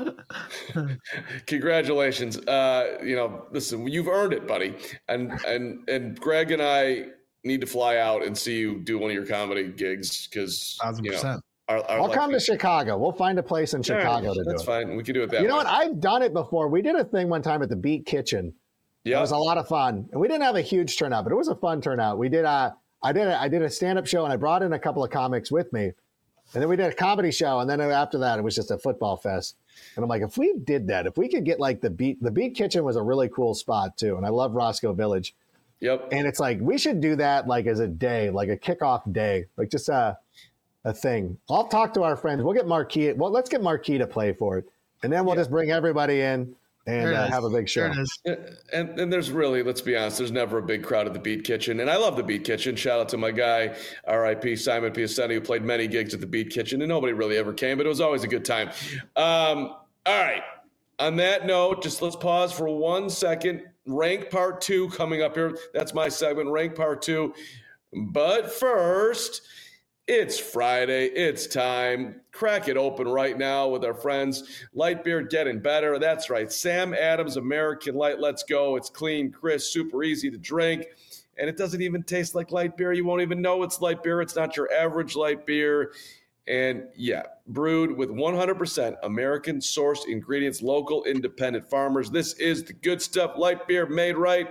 Congratulations. Uh, you know, listen, you've earned it, buddy. And and and Greg and I need to fly out and see you do one of your comedy gigs because you know, our, our I'll come to Chicago. We'll find a place in Chicago right, to do it. That's fine. We can do it that way. You know what? I've done it before. We did a thing one time at the Beat Kitchen. Yeah, it was a lot of fun, and we didn't have a huge turnout, but it was a fun turnout. We did a, I did a, I did a stand-up show, and I brought in a couple of comics with me. And then we did a comedy show, and then after that, it was just a football fest. And I'm like, if we did that, if we could get like the Beat, the Beat Kitchen was a really cool spot too, and I love Roscoe Village. Yep. And it's like we should do that like as a day, like a kickoff day, like just a a thing. I'll talk to our friends. We'll get Marquis. Well, let's get Marquis to play for it, and then we'll yeah. just bring everybody in and uh, have a big show. And, and there's really, let's be honest, there's never a big crowd at the Beat Kitchen. And I love the Beat Kitchen. Shout out to my guy, R I P Simon Piacenti, who played many gigs at the Beat Kitchen. And nobody really ever came, but it was always a good time. Um, all right. On that note, just let's pause for one second. Rank part two coming up here. That's my segment, Rank part two. But first, it's Friday. It's time. Crack it open right now with our friends. Light beer getting better. That's right. Sam Adams American Light. Let's go. It's clean, crisp, super easy to drink. And it doesn't even taste like light beer. You won't even know it's light beer. It's not your average light beer. And yeah, brewed with one hundred percent American sourced ingredients, local independent farmers. This is the good stuff. Light beer made right.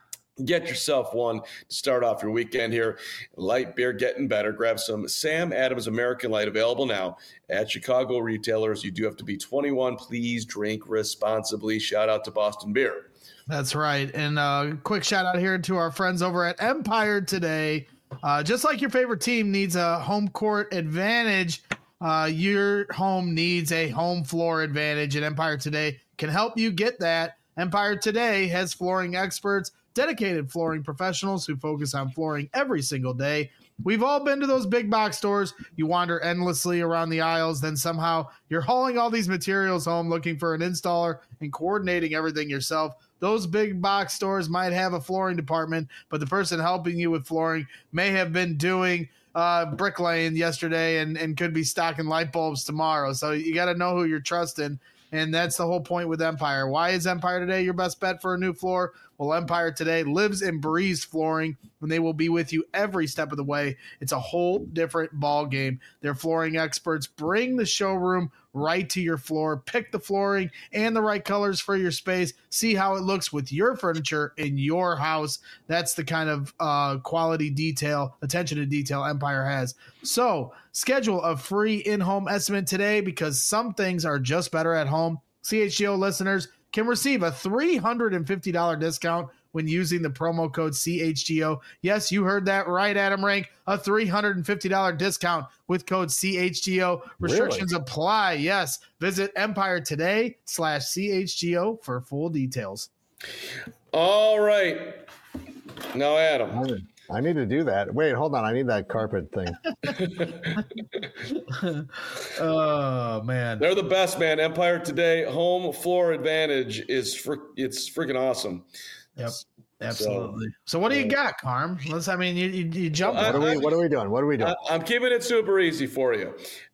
Get yourself one to start off your weekend here. Light beer getting better. Grab some Sam Adams American Light, available now at Chicago retailers. You do have to be twenty-one. Please drink responsibly. Shout out to Boston Beer. That's right. And a uh, quick shout out here to our friends over at Empire Today. Uh, just like your favorite team needs a home court advantage, uh, your home needs a home floor advantage, and Empire Today can help you get that. Empire Today has flooring experts, dedicated flooring professionals who focus on flooring every single day. We've all been to those big box stores. You wander endlessly around the aisles, then somehow you're hauling all these materials home looking for an installer and coordinating everything yourself. Those big box stores might have a flooring department, but the person helping you with flooring may have been doing uh, bricklaying yesterday and, and could be stocking light bulbs tomorrow. So you got to know who you're trusting. And that's the whole point with Empire. Why is Empire Today your best bet for a new floor? Well, Empire Today lives and breathes flooring, and they will be with you every step of the way. It's a whole different ball game. Their flooring experts bring the showroom right to your floor. Pick the flooring and the right colors for your space. See how it looks with your furniture in your house. That's the kind of uh, quality detail, attention to detail Empire has. So schedule a free in-home estimate today, because some things are just better at home. C H G O listeners can receive a three hundred fifty dollars discount when using the promo code C H G O. Yes, you heard that right, Adam Rank. A three hundred fifty dollars discount with code C H G O. Restrictions really? apply. Yes. Visit Empire Today slash C H G O for full details. All right. Now, Adam. I need to do that. Wait, hold on. I need that carpet thing. Oh, man. They're the best, man. Empire Today home floor advantage is fr- it's freaking awesome. Yep. Absolutely. So, so what do you got, Carm? Let's. I mean, you you, you jump. What are we? What are we doing? What are we doing? I, I'm keeping it super easy for you.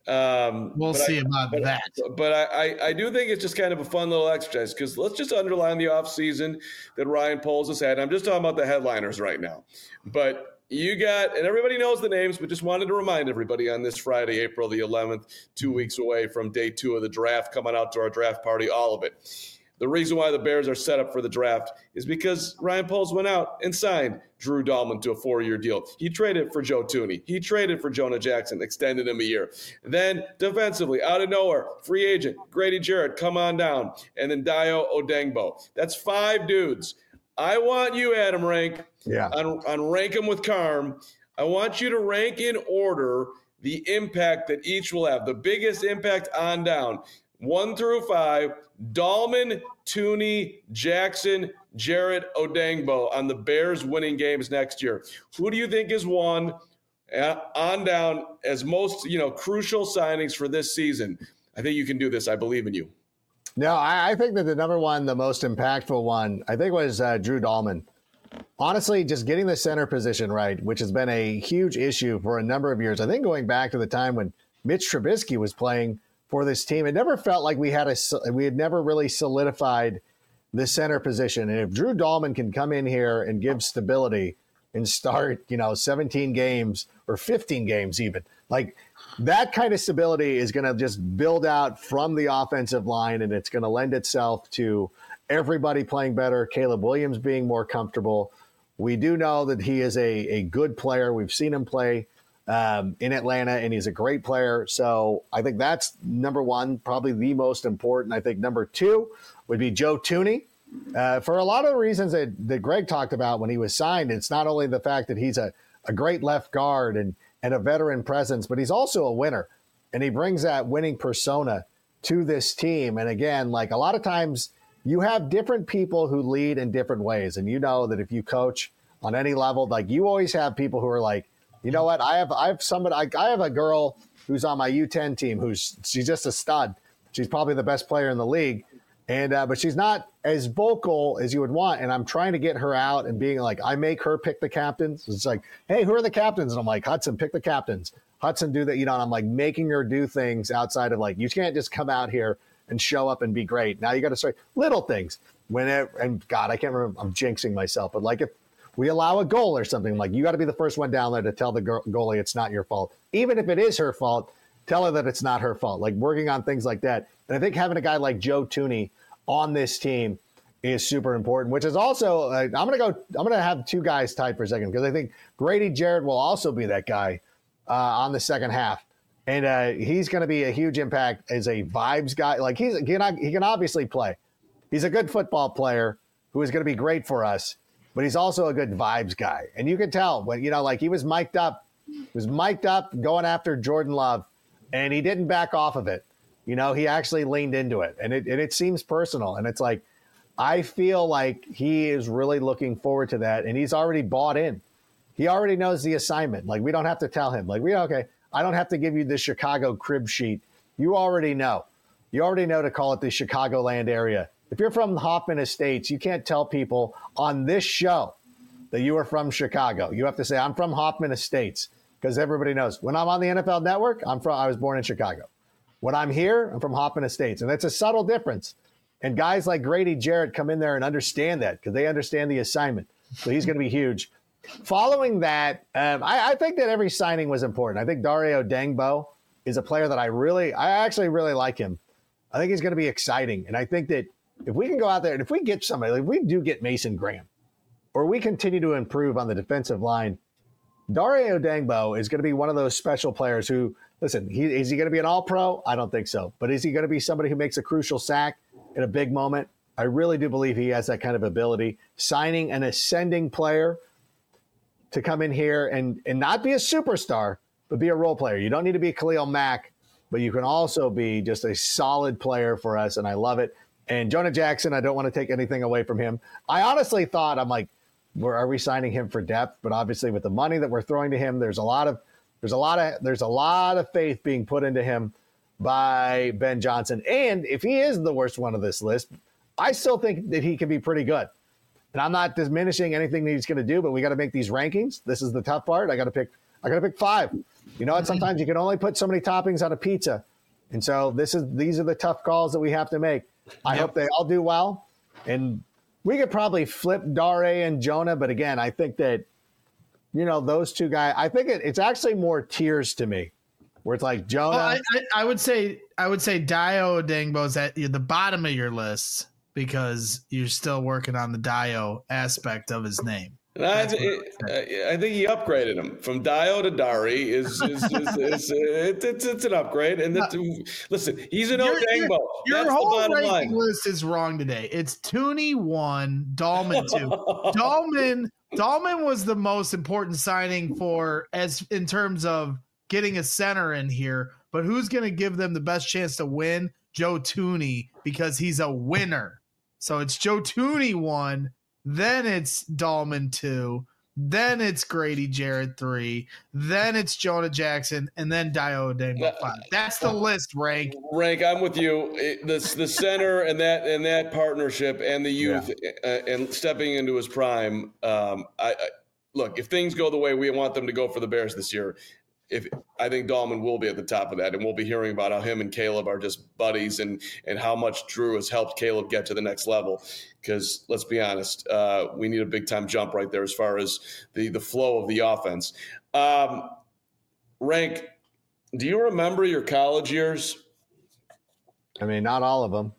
Um, we'll see I, about but, that. But I, I, I do think it's just kind of a fun little exercise because let's just underline the offseason that Ryan Poles has had. I'm just talking about the headliners right now. But you got, and everybody knows the names, but just wanted to remind everybody on this Friday, April the eleventh, two weeks away from day two of the draft, coming out to our draft party, all of it. The reason why the Bears are set up for the draft is because Ryan Poles went out and signed Drew Dahlman to a four-year deal. He traded for Joe Thuney. He traded for Jonah Jackson, extended him a year. Then defensively, out of nowhere, free agent, Grady Jarrett, come on down. And then Dayo Odeyingbo. That's five dudes. I want you, Adam Rank, yeah. on, on Rank 'em with Carm. I want you to rank in order the impact that each will have. The biggest impact on down. One through five, Dahlman, Thuney, Jackson, Jarrett, Odeyingbo on the Bears winning games next year. Who do you think is one uh, on down as most, you know, crucial signings for this season? I think you can do this. I believe in you. No, I, I think that the number one, the most impactful one, I think was uh, Drew Dahlman. Honestly, just getting the center position right, which has been a huge issue for a number of years. I think going back to the time when Mitch Trubisky was playing for this team, it never felt like we had a we had never really solidified the center position. And if Drew Dahlman can come in here and give stability and start, you know, seventeen games or fifteen games even, like that kind of stability is going to just build out from the offensive line, and it's going to lend itself to everybody playing better, Caleb Williams being more comfortable. We do know that he is a, a good player. We've seen him play Um, in Atlanta, and he's a great player. So I think that's number one, probably the most important. I think number two would be Joe Thuney. Uh, for a lot of the reasons that, that Greg talked about when he was signed, it's not only the fact that he's a, a great left guard and, and a veteran presence, but he's also a winner. And he brings that winning persona to this team. And again, like a lot of times you have different people who lead in different ways. And you know that if you coach on any level, like you always have people who are like, you know what? I have I have somebody. I, I have a girl who's on my U ten team who's she's just a stud. She's probably the best player in the league, and uh, but she's not as vocal as you would want. And I'm trying to get her out and being like, I make her pick the captains. It's like, hey, who are the captains? And I'm like, Hudson, pick the captains. Hudson, do that. You know, and I'm like making her do things outside of like, you can't just come out here and show up and be great. Now you got to start little things. When it, and God, I can't remember. I'm jinxing myself, but like if we allow a goal or something, like you got to be the first one down there to tell the goalie it's not your fault. Even if it is her fault, tell her that it's not her fault, like working on things like that. And I think having a guy like Joe Thuney on this team is super important, which is also, uh, I'm going to go, I'm going to have two guys tied for a second because I think Grady Jarrett will also be that guy uh, on the second half. And uh, he's going to be a huge impact as a vibes guy. Like he's, he can, he can obviously play. He's a good football player who is going to be great for us. But he's also a good vibes guy. And you can tell when, you know, like he was mic'd up, he was mic'd up going after Jordan Love, and he didn't back off of it. You know, he actually leaned into it, and it, and it seems personal. And it's like, I feel like he is really looking forward to that, and he's already bought in. He already knows the assignment. Like, we don't have to tell him. Like, we, okay, I don't have to give you the Chicago crib sheet. You already know. You already know to call it the Chicagoland area. If you're from Hoffman Estates, you can't tell people on this show that you are from Chicago. You have to say, I'm from Hoffman Estates, because everybody knows. When I'm on the N F L Network, I'm from. I was born in Chicago. When I'm here, I'm from Hoffman Estates. And that's a subtle difference. And guys like Grady Jarrett come in there and understand that because they understand the assignment. So he's going to be huge. Following that, um, I, I think that every signing was important. I think Dario Odeyingbo is a player that I really, I actually really like him. I think he's going to be exciting. And I think that if we can go out there and if we get somebody, like we do get Mason Graham, or we continue to improve on the defensive line, Dario Odeyingbo is going to be one of those special players who, listen, he, is he going to be an all-pro? I don't think so. But is he going to be somebody who makes a crucial sack in a big moment? I really do believe he has that kind of ability. Signing an ascending player to come in here and, and not be a superstar, but be a role player. You don't need to be Khalil Mack, but you can also be just a solid player for us, and I love it. And Jonah Jackson, I don't want to take anything away from him. I honestly thought, I'm like, where are we signing him for depth? But obviously with the money that we're throwing to him, there's a lot of there's a lot of there's a lot of faith being put into him by Ben Johnson. And if he is the worst one of this list, I still think that he can be pretty good. And I'm not diminishing anything that he's going to do, but we got to make these rankings. This is the tough part. I got to pick. I got to pick five. You know what? Sometimes you can only put so many toppings on a pizza, and so this is these are the tough calls that we have to make. I yep. hope they all do well, and we could probably flip Dare and Jonah. But again, I think that you know those two guys. I think it, it's actually more tiers to me, where it's like Jonah. Well, I, I, I would say I would say Dayo Odeyingbo's at the bottom of your list, because you're still working on the Dayo aspect of his name. And I, it, I think he upgraded him from Dayo to Dari. Is, is, is, is, it, it's, it's an upgrade. And that, listen, he's an Odeyingbo. Your, your whole ranking line. list is wrong today. It's Tooney one, Dahlman two. Dahlman, Dahlman was the most important signing for as in terms of getting a center in here. But who's going to give them the best chance to win? Joe Tooney, because he's a winner. So it's Joe Tooney one, then it's Dahlman two, then it's Grady Jarrett three, then it's Jonah Jackson, and then Dayo Odeyingbo five. That's the list, Rank. Rank, I'm with you. It, the the center and that and that partnership and the youth yeah. uh, and stepping into his prime. Um, I, I look, if things go the way we want them to go for the Bears this year, if I think Dahlman will be at the top of that, and we'll be hearing about how him and Caleb are just buddies, and and how much Drew has helped Caleb get to the next level. Because let's be honest, uh, we need a big time jump right there as far as the the flow of the offense. Um, Rank, do you remember your college years? I mean, not all of them.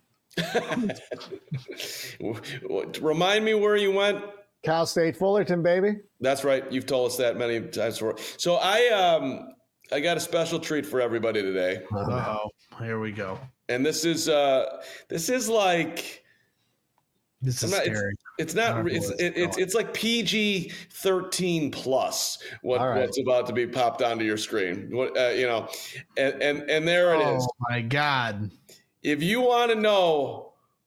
Remind me where you went. Cal State Fullerton, baby. That's right. You've told us that many times before. So I um I got a special treat for everybody today. Uh-oh. Here we go. And this is uh this is like this is not, scary. It's, it's not it's it, it's it's like P G thirteen plus what right. what's about to be popped onto your screen. What uh, you know, and and and there it oh, is. Oh my God. If you want to know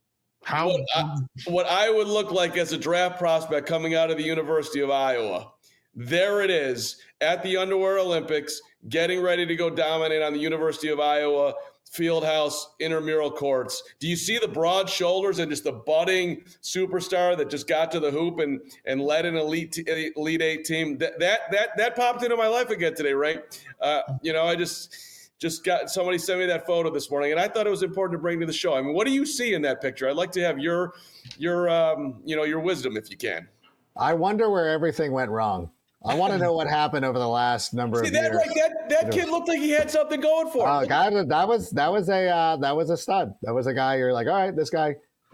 How what I, what I would look like as a draft prospect coming out of the University of Iowa, there it is at the Underwear Olympics, getting ready to go dominate on the University of Iowa Fieldhouse intramural courts. Do you see the broad shoulders and just the budding superstar that just got to the hoop and and led an elite elite eight team? That that that that popped into my life again today, right? Uh, you know, I just. Just got somebody sent me that photo this morning, and I thought it was important to bring to the show. I mean, what do you see in that picture? I'd like to have your, your, um, you know, your wisdom if you can. I wonder where everything went wrong. I want to know what happened over the last number see, of that, years. Like that, that kid looked like he had something going for him. Uh, guy, that was that was a uh, that was a stud. That was a guy you're like, all right, this guy.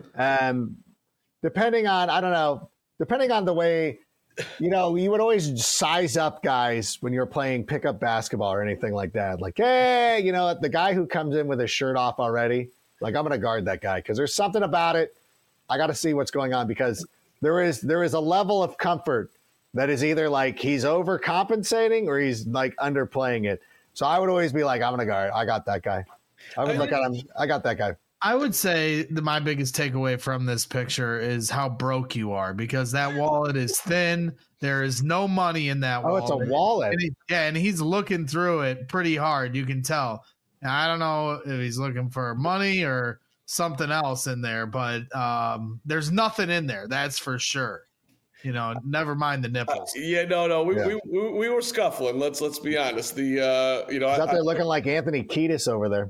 Um, depending on I don't know, depending on the way. You know, you would always size up guys when you're playing pickup basketball or anything like that. Like, hey, you know, the guy who comes in with his shirt off already, like, I'm going to guard that guy because there's something about it. I got to see what's going on because there is there is a level of comfort that is either like he's overcompensating or he's like underplaying it. So I would always be like, I'm going to guard. I got that guy. I would I look at him. I got that guy. I would say that my biggest takeaway from this picture is how broke you are because that wallet is thin. There is no money in that oh, wallet. Oh, it's a wallet. And he, yeah, and he's looking through it pretty hard. You can tell. And I don't know if he's looking for money or something else in there, but um, there's nothing in there. That's for sure. You know, never mind the nipples. Uh, yeah, no, no, we, yeah. we, we we were scuffling. Let's let's be honest. The uh, you know, he's out I, there I, looking like Anthony Kiedis over there.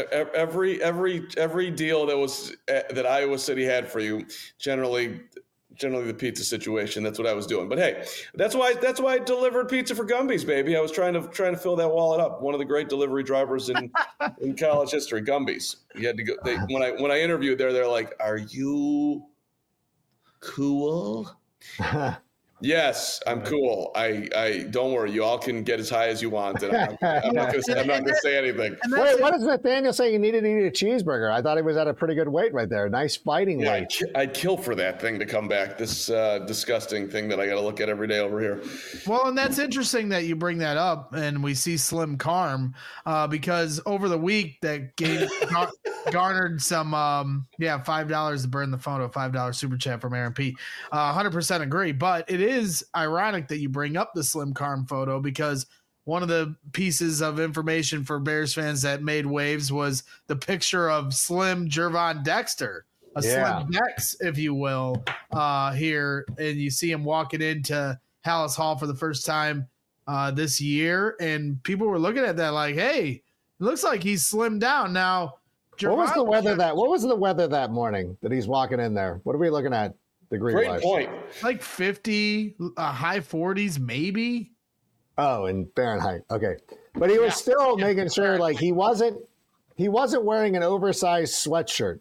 Every every every deal that was that Iowa City had for you, generally, generally the pizza situation. That's what I was doing. But hey, that's why that's why I delivered pizza for Gumby's, baby. I was trying to trying to fill that wallet up. One of the great delivery drivers in in college history, Gumby's. You had to go. They, when I when I interviewed there, they're like, "Are you cool?" Yes, I'm cool. I, I don't worry. You all can get as high as you want. And I'm, I'm not going to say anything. Wait, what is Nathaniel saying? You needed to eat a cheeseburger. I thought he was at a pretty good weight right there. Nice fighting yeah, weight. I'd, ki- I'd kill for that thing to come back. This uh, disgusting thing that I got to look at every day over here. Well, and that's interesting that you bring that up, and we see Slim Carm uh, because over the week that gave gar- garnered some, um, yeah, five dollars to burn the phone, a five dollar super chat from Aaron P. Uh, one hundred percent agree, but it is ironic that you bring up the Slim Carm photo because one of the pieces of information for Bears fans that made waves was the picture of Slim Gervon Dexter, a Yeah. Slim Dex, if you will, uh, here, and you see him walking into Hallis Hall for the first time uh, this year, and people were looking at that like, "Hey, it looks like he's slimmed down now." What was the Gervon- weather that? What was the weather that morning that he's walking in there? What are we looking at? Degree Great wise? point. Like fifty, uh, high forties, maybe. Oh, in Fahrenheit. Okay, but he was Yeah. still Yeah. making sure like he wasn't he wasn't wearing an oversized sweatshirt.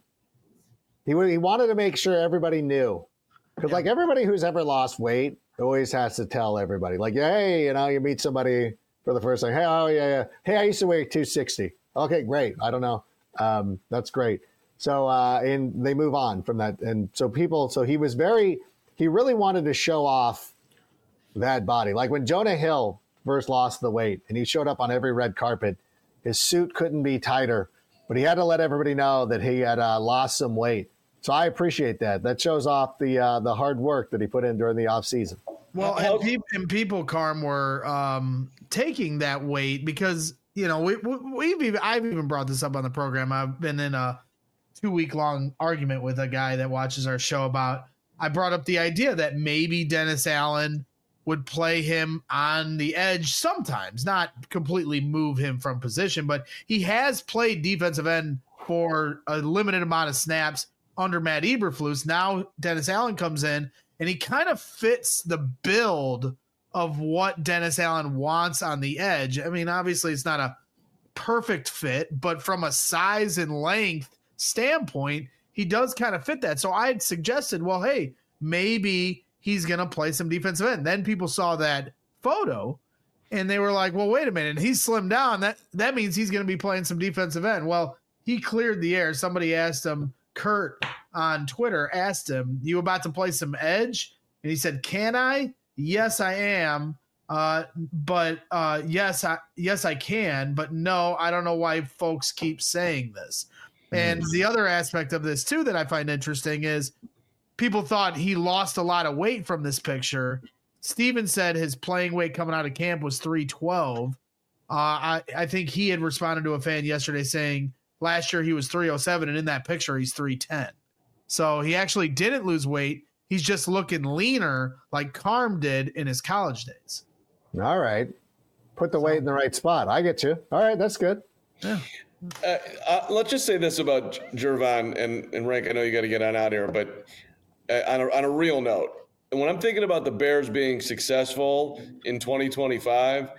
He wa- he wanted to make sure everybody knew because Yeah. like everybody who's ever lost weight always has to tell everybody like, hey, you know, you meet somebody for the first time. Hey, oh yeah, yeah. Hey, I used to weigh two sixty. Okay, great. I don't know. Um, that's great. So uh, and they move on from that, and so people. So he was very. He really wanted to show off that body. Like when Jonah Hill first lost the weight and he showed up on every red carpet, his suit couldn't be tighter, but he had to let everybody know that he had uh, lost some weight. So I appreciate that. That shows off the uh, the hard work that he put in during the off season. Well, How- and, peop and people, Carm, were um, taking that weight because you know we, we we've even, I've even brought this up on the program. I've been in a two week long argument with a guy that watches our show about. I brought up the idea that maybe Dennis Allen would play him on the edge sometimes, not completely move him from position, but he has played defensive end for a limited amount of snaps under Matt Eberflus. Now Dennis Allen comes in and he kind of fits the build of what Dennis Allen wants on the edge. I mean, obviously it's not a perfect fit, but from a size and length standpoint, he does kind of fit that. So I had suggested, well, hey, maybe he's going to play some defensive end. Then people saw that photo and they were like, well, wait a minute. He's slimmed down. That, that means he's going to be playing some defensive end. Well, he cleared the air. Somebody asked him, Kurt on Twitter asked him, you about to play some edge? And he said, can I? Yes, I am. Uh, but uh, yes, I, yes, I can. But no, I don't know why folks keep saying this. And the other aspect of this too that I find interesting is people thought he lost a lot of weight from this picture. Steven said his playing weight coming out of camp was three twelve. Uh, I, I think he had responded to a fan yesterday saying last year he was three oh seven, and in that picture he's three ten. So he actually didn't lose weight. He's just looking leaner like Carm did in his college days. All right. Put the weight in the right spot. I get you. All right, that's good. Yeah. Uh, uh, let's just say this about Gervon and, and Rank. I know you got to get on out here, but uh, on, a, on a real note, and when I'm thinking about the Bears being successful in twenty twenty-five,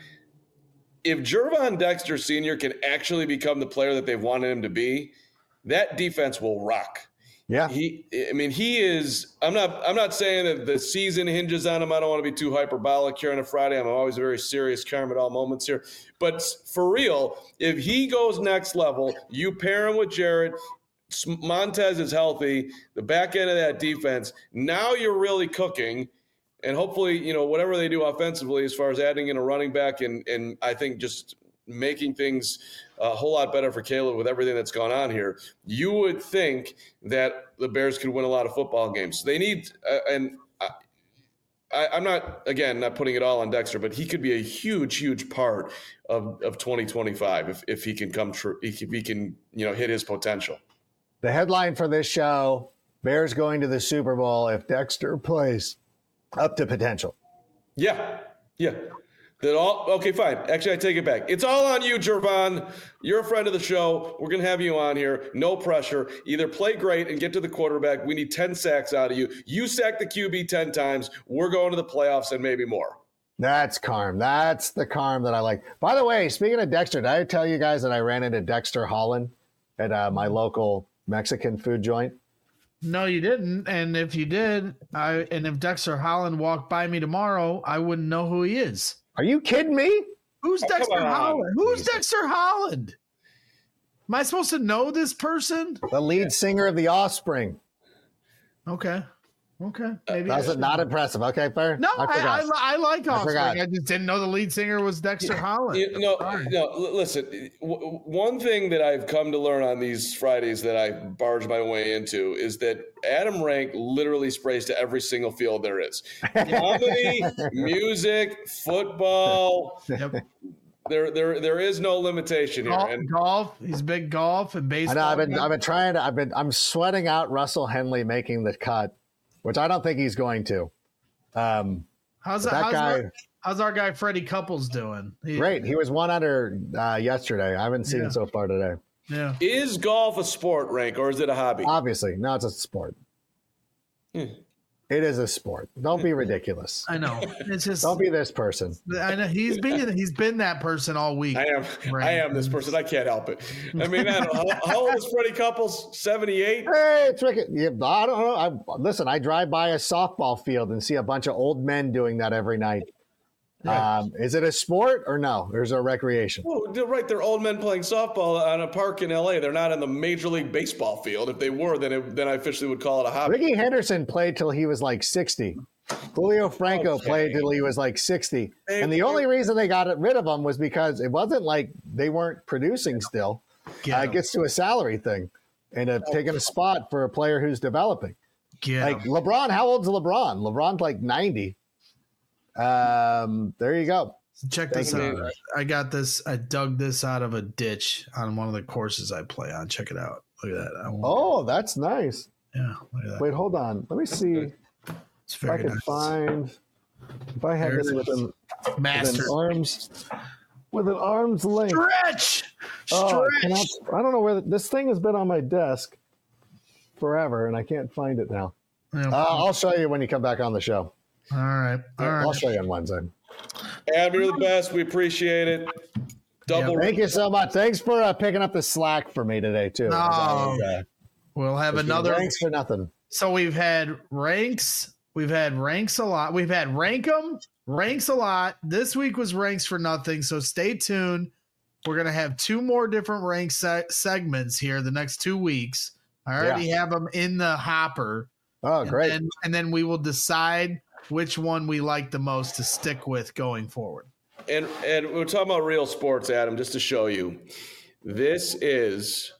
if Gervon Dexter Senior can actually become the player that they've wanted him to be, that defense will rock. Yeah. He, I mean, he is. I'm not. I'm not saying that the season hinges on him. I don't want to be too hyperbolic here on a Friday. I'm always very serious, calm at all moments here. But for real, if he goes next level, you pair him with Jarrett. Montez is healthy. The back end of that defense. Now you're really cooking. And hopefully, you know, whatever they do offensively, as far as adding in a running back, and and I think just making things a whole lot better for Caleb with everything that's gone on here, you would think that the Bears could win a lot of football games. They need, uh, and I, I, I'm not, again, not putting it all on Dexter, but he could be a huge, huge part of, of twenty twenty-five if, if he can come true, if he can, you know, hit his potential. The headline for this show, Bears going to the Super Bowl if Dexter plays up to potential. Yeah, yeah. That all okay, fine. Actually, I take it back. It's all on you, Gervon. You're a friend of the show. We're gonna have you on here. No pressure. Either play great and get to the quarterback. We need ten sacks out of you. You sack the Q B ten times. We're going to the playoffs and maybe more. That's Carm. That's the Carm that I like. By the way, speaking of Dexter, did I tell you guys that I ran into Dexter Holland at uh, my local Mexican food joint? No, you didn't. And if you did, I and if Dexter Holland walked by me tomorrow, I wouldn't know who he is. Are you kidding me? Who's Oh, come Dexter on. Holland? Who's Jesus. Dexter Holland? Am I supposed to know this person? The lead singer of The Offspring. Okay. Okay. Maybe I That's should. not impressive. Okay, fair. No, I, I, forgot. li- I like I Offspring. forgot. I, just didn't know the lead singer was Dexter Holland. You know, Sorry. no, l- listen, w- one thing that I've come to learn on these Fridays that I barge my way into is that Adam Rank literally sprays to every single field there is. Comedy, music, football. Yep. There, there, there is no limitation here. Golf, And golf. He's big golf and I baseball. know. I've been. I've been trying to. I've been. I'm sweating out Russell Henley making the cut, which I don't think he's going to. Um, how's but that, that how's, guy. our, how's our guy Freddie Couples doing? He- Great. He was one under uh, yesterday. I haven't seen Yeah. so far today. Yeah. is golf a sport, Rank, or is it a hobby? Obviously, no, it's a sport. Hmm. It is a sport. Don't be ridiculous. I know. It's just. Don't be this person. I know he's been he's been that person all week. I am, Right. I am this person. I can't help it. I mean, I don't know. How, how old is Freddie Couples? seventy-eight? Hey, it's Rick. Yeah, I don't know. I, listen, I drive by a softball field and see a bunch of old men doing that every night. Yeah. Um, is it a sport or no? There's a recreation. Oh, they're right. They're old men playing softball on a park in L A. They're not in the Major League Baseball field. If they were, then it, then I officially would call it a hobby. Ricky Henderson played till he was like sixty. Julio Franco Okay. played till he was like sixty. Hey, And the only reason they got rid of him was because it wasn't like they weren't producing still. Get Uh, it him. gets to a salary thing and uh, taking a spot for a player who's developing. Get Like him. LeBron, how old's LeBron? LeBron's like ninety. Um, there you go. Check this Thank out. I got this. I dug this out of a ditch on one of the courses I play on. Check it out. Look at that. I won't- Oh, that's nice. yeah. Look at that. Wait, hold on. Let me see It's if I very can nice. find if I have There it this is. within, within Master. arms with an arm's length. Stretch. Oh, I, Stretch. cannot, I don't know where the, this thing has been on my desk forever, and I can't find it now. Yeah. Uh, I'll show you when you come back on the show. all right. All I'll right. show you on Wednesday. Adam, you're the best. We appreciate it. Double. Thank you so much. Thanks for uh, picking up the slack for me today too. No. As I was, uh, We'll have just another. Thanks for nothing. So we've had ranks. We've had ranks a lot. We've had rank 'em, ranks a lot. This week was ranks for nothing. So stay tuned. We're gonna have two more different rank se- segments here the next two weeks. I already have them in the hopper. Oh, great. And then, and then we will decide which one we like the most to stick with going forward. And and we're talking about real sports, Adam. Just to show you, this is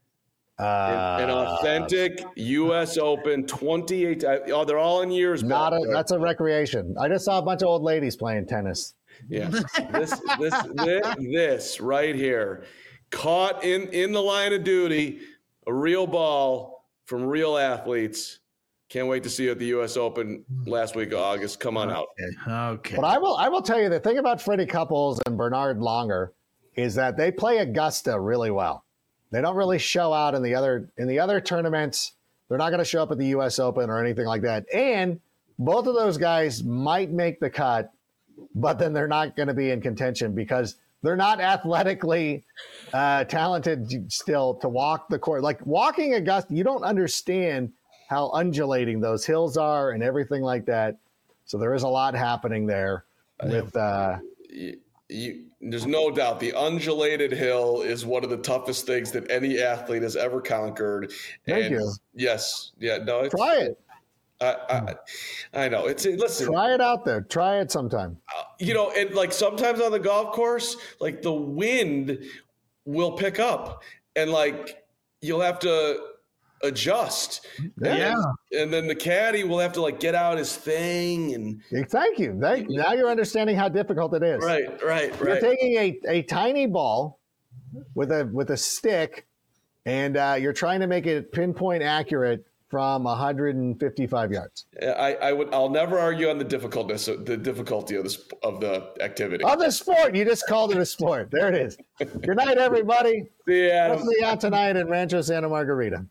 an, Uh, an authentic U S Open twenty-eight. Oh, they're all in years. Not back a, there. that's a recreation. I just saw a bunch of old ladies playing tennis. Yeah, this this this, this right here, caught in in the line of duty, a real ball from real athletes. Can't wait to see you at the U S Open last week of August. Come on out. Okay. Okay. But I will I will tell you the thing about Freddie Couples and Bernard Longer is that they play Augusta really well. They don't really show out in the other in the other tournaments. They're not going to show up at the U S Open or anything like that. And both of those guys might make the cut, but then they're not going to be in contention because they're not athletically uh, talented still to walk the course. Like walking Augusta, you don't understand how undulating those hills are and everything like that. So there is a lot happening there with uh, You, you, there's no doubt the undulated hill is one of the toughest things that any athlete has ever conquered. Thank and you. Yes, yeah, no, it's, try it. I, I, I know. It's listen. Try it out there. Try it sometime. You know, and like sometimes on the golf course, like the wind will pick up, and like you'll have to adjust. Yeah. And, and then the caddy will have to like get out his thing and Thank you. Thank, now you're understanding how difficult it is. right, right, You're right. taking a, a tiny ball with a with a stick, and uh, you're trying to make it pinpoint accurate from one hundred fifty-five yards. I, I would. I'll never argue on the difficultness, the difficulty of this of the activity. Of the sport, you just called it a sport. There it is. Good night, everybody. See you, Adam. Let's see out tonight in Rancho Santa Margarita.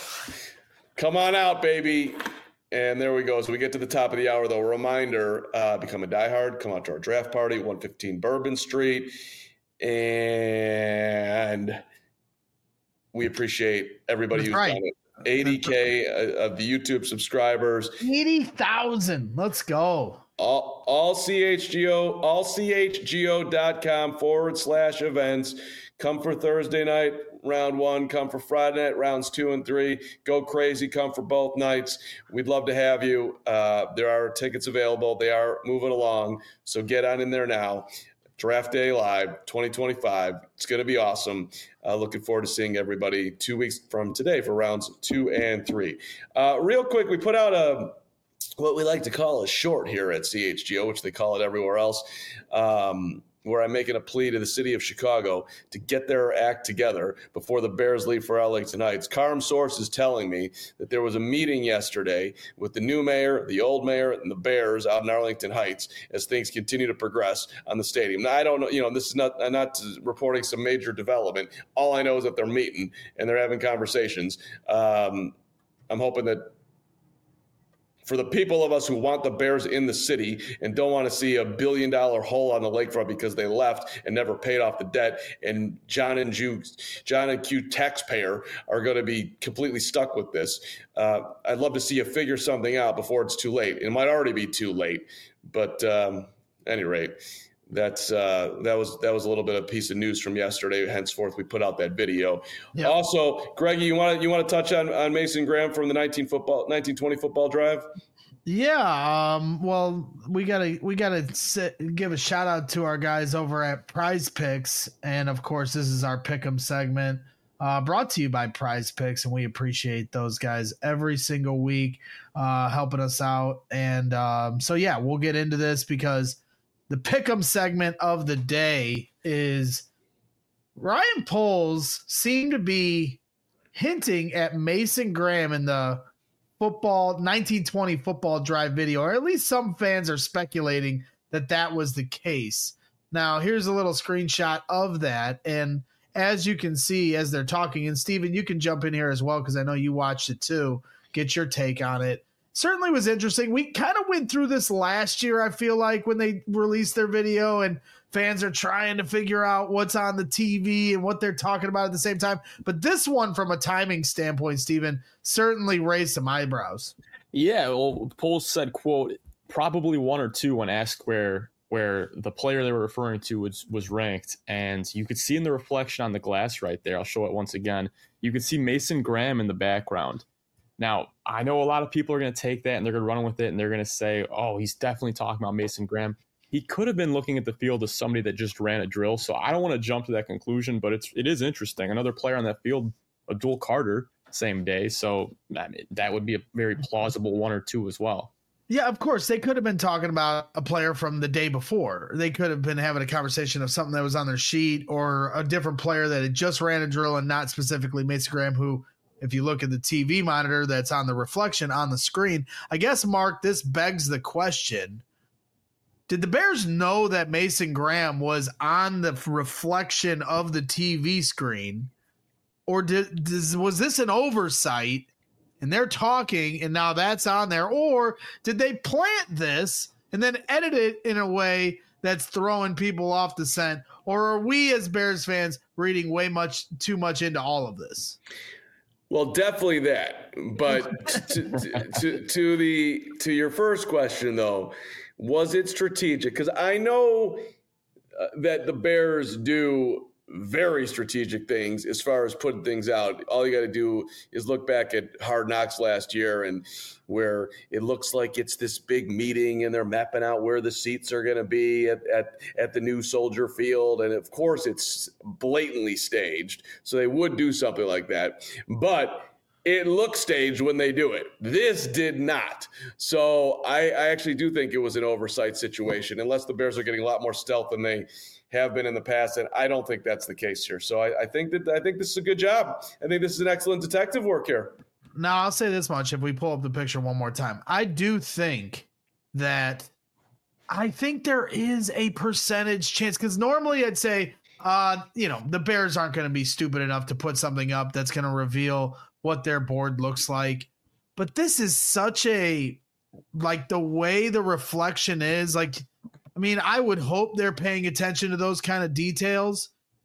Come on out, baby. And there we go. So we get to the top of the hour, though. A reminder, uh, become a diehard. Come out to our draft party, one fifteen Bourbon Street. And we appreciate everybody That's who's right. done it. eighty K of the YouTube subscribers. eighty thousand. Let's go. All, all C H G O, all C H G O dot com forward slash events. Come for Thursday night, round one. Come for Friday night, rounds two and three. Go crazy. Come for both nights. We'd love to have you. Uh, there are tickets available. They are moving along. So get on in there now. Draft Day Live twenty twenty-five. It's going to be awesome. Uh, looking forward to seeing everybody two weeks from today for rounds two and three. Uh, real quick, we put out a what we like to call a short here at C H G O, which they call it everywhere else, um, where I'm making a plea to the city of Chicago to get their act together before the Bears leave for Arlington Heights. Carm Source is telling me that there was a meeting yesterday with the new mayor, the old mayor, and the Bears out in Arlington Heights as things continue to progress on the stadium. Now, I don't know, you know, this is not, I'm not reporting some major development. All I know is that they're meeting and they're having conversations. Um, I'm hoping that for the people of us who want the Bears in the city and don't want to see a billion dollar hole on the lakefront because they left and never paid off the debt, and John and Jew, John and Q taxpayer are going to be completely stuck with this. Uh, I'd love to see you figure something out before it's too late. It might already be too late, but um, at any rate, that's uh, that was that was a little bit of a piece of news from yesterday. Henceforth, we put out that video. Yep. Also, Greggy, you want to you want to touch on, on Mason Graham from the nineteen football nineteen twenty football drive? Yeah. Um, well, we gotta we gotta sit, give a shout out to our guys over at Prize Picks, and of course, this is our Pick'em segment, uh, brought to you by Prize Picks, and we appreciate those guys every single week, uh, helping us out. And um, so, yeah, we'll get into this because the Pick'em segment of the day is Ryan Poles seemed to be hinting at Mason Graham in the football nineteen twenty football drive video, or at least some fans are speculating that that was the case. Now, here's a little screenshot of that. And as you can see, as they're talking, and Steven, you can jump in here as well, because I know you watched it too, get your take on it. Certainly was interesting. We kind of went through this last year, I feel like, when they released their video and fans are trying to figure out what's on the T V and what they're talking about at the same time. But this one, from a timing standpoint, Steven, certainly raised some eyebrows. Yeah, well, Poles said, quote, probably one or two when asked where where the player they were referring to was, was ranked. And you could see in the reflection on the glass right there, I'll show it once again, you could see Mason Graham in the background. Now, I know a lot of people are going to take that and they're going to run with it and they're going to say, oh, he's definitely talking about Mason Graham. He could have been looking at the field as somebody that just ran a drill. So I don't want to jump to that conclusion, but it's, it is interesting. Another player on that field, Abdul Carter, same day. So I mean, that would be a very plausible one or two as well. Yeah, of course. They could have been talking about a player from the day before. They could have been having a conversation of something that was on their sheet, or a different player that had just ran a drill, and not specifically Mason Graham, who, if you look at the T V monitor that's on the reflection on the screen, I guess, Mark, this begs the question. Did the Bears know that Mason Graham was on the reflection of the T V screen? Or did, does, was this an oversight and they're talking and now that's on there? Or did they plant this and then edit it in a way that's throwing people off the scent? Or are we as Bears fans reading way much too much into all of this? Well, definitely that. But to, to, to the to your first question, though, was it strategic? Because I know uh, that the Bears do very strategic things as far as putting things out. All you got to do is look back at Hard Knocks last year, and where it looks like it's this big meeting and they're mapping out where the seats are going to be at, at, at the new Soldier Field. And of course it's blatantly staged. So they would do something like that, but it looks staged when they do it. This did not. So I, I actually do think it was an oversight situation, unless the Bears are getting a lot more stealth than they have been in the past, and I don't think that's the case here. So I, I think that I think this is a good job. I think this is an excellent detective work here. Now, I'll say this much: if we pull up the picture one more time, I do think that I think there is a percentage chance, because normally I'd say, uh, you know, the Bears aren't going to be stupid enough to put something up that's going to reveal what their board looks like. But this is such a, like, the way the reflection is, like, I mean, I would hope they're paying attention to those kind of details,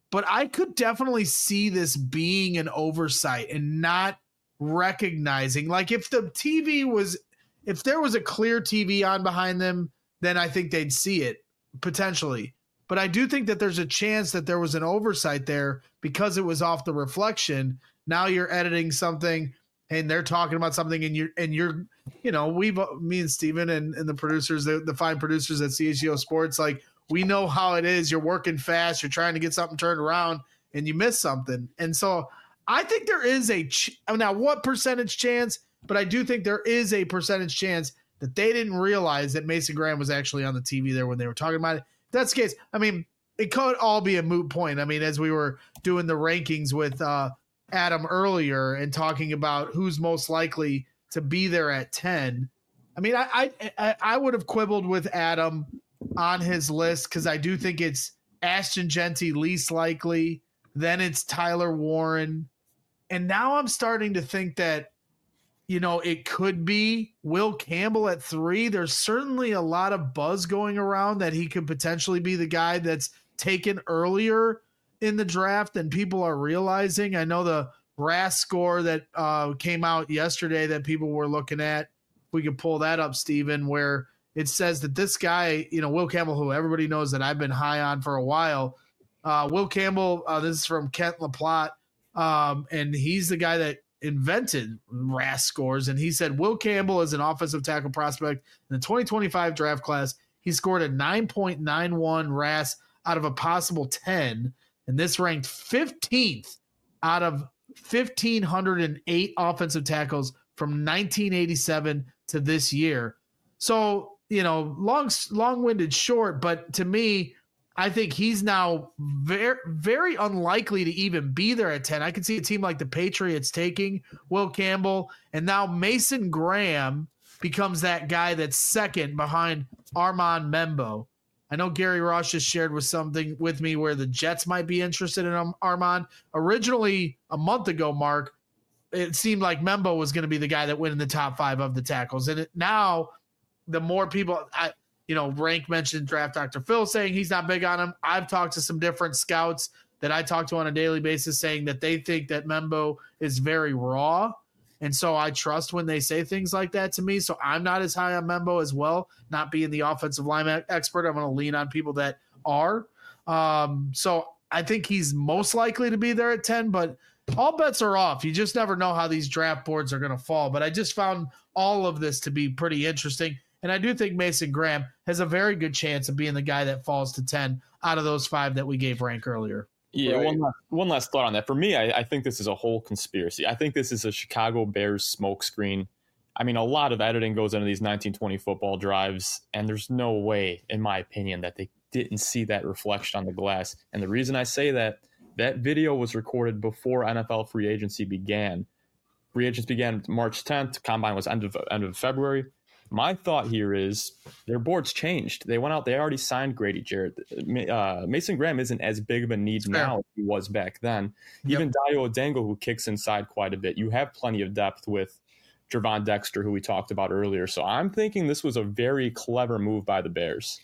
but I could definitely see this being an oversight and not recognizing. Like if the T V was, if there was a clear T V on behind them, then I think they'd see it potentially. But I do think that there's a chance that there was an oversight there because it was off the reflection. Now you're editing something and they're talking about something and you're, and you're, you know, we've, me and Steven and, and the producers, the, the fine producers at C H G O Sports, like we know how it is. You're working fast. You're trying to get something turned around and you miss something. And so I think there is a, ch- now what percentage chance, but I do think there is a percentage chance that they didn't realize that Mason Graham was actually on the T V there when they were talking about it. If that's the case, I mean, it could all be a moot point. I mean, as we were doing the rankings with uh, Adam earlier and talking about who's most likely to be there at ten, I mean, I I, I would have quibbled with Adam on his list because I do think it's Ashton Jeanty least likely, then it's Tyler Warren, and now I'm starting to think that, you know, it could be Will Campbell at three. There's certainly a lot of buzz going around that he could potentially be the guy that's taken earlier in the draft than people are realizing. I know the R A S score that uh, came out yesterday that people were looking at, if we could pull that up, Steven, where it says that this guy, you know, Will Campbell, who everybody knows that I've been high on for a while, uh, Will Campbell, uh, this is from Kent LaPlante, um, and he's the guy that invented R A S scores, and he said Will Campbell is an offensive tackle prospect in the twenty twenty-five draft class. He scored a nine point nine one R A S out of a possible ten, and this ranked fifteenth out of one thousand five hundred eight offensive tackles from nineteen eighty-seven to this year. So, you know, long long-winded short, but to me, I think he's now very, very unlikely to even be there at ten. I can see a team like the Patriots taking Will Campbell, and now Mason Graham becomes that guy that's second behind Armand Membo. I know Gary Ross just shared with something with me where the Jets might be interested in Armand. Originally, a month ago, Mark, it seemed like Membo was going to be the guy that went in the top five of the tackles. And it, now, the more people – I. You know, Rank mentioned Draft Doctor Phil saying he's not big on him. I've talked to some different scouts that I talk to on a daily basis saying that they think that Membo is very raw. And so I trust when they say things like that to me. So I'm not as high on Membo as well, not being the offensive line expert. I'm going to lean on people that are. Um, so I think he's most likely to be there at ten, but all bets are off. You just never know how these draft boards are going to fall. But I just found all of this to be pretty interesting. And I do think Mason Graham has a very good chance of being the guy that falls to ten out of those five that we gave rank earlier. Yeah, right. one, last, one last thought on that. For me, I, I think this is a whole conspiracy. I think this is a Chicago Bears smokescreen. I mean, a lot of editing goes into these nineteen twenty football drives, and there's no way, in my opinion, that they didn't see that reflection on the glass. And the reason I say that, that video was recorded before N F L free agency began. Free agents began March tenth. Combine was end of end of February. My thought here is their boards changed. They went out. They already signed Grady Jarrett. Uh, Mason Graham isn't as big of a need now as he was back then. Yep. Even Dayo Odengo, who kicks inside quite a bit. You have plenty of depth with Gervon Dexter, who we talked about earlier. So I'm thinking this was a very clever move by the Bears.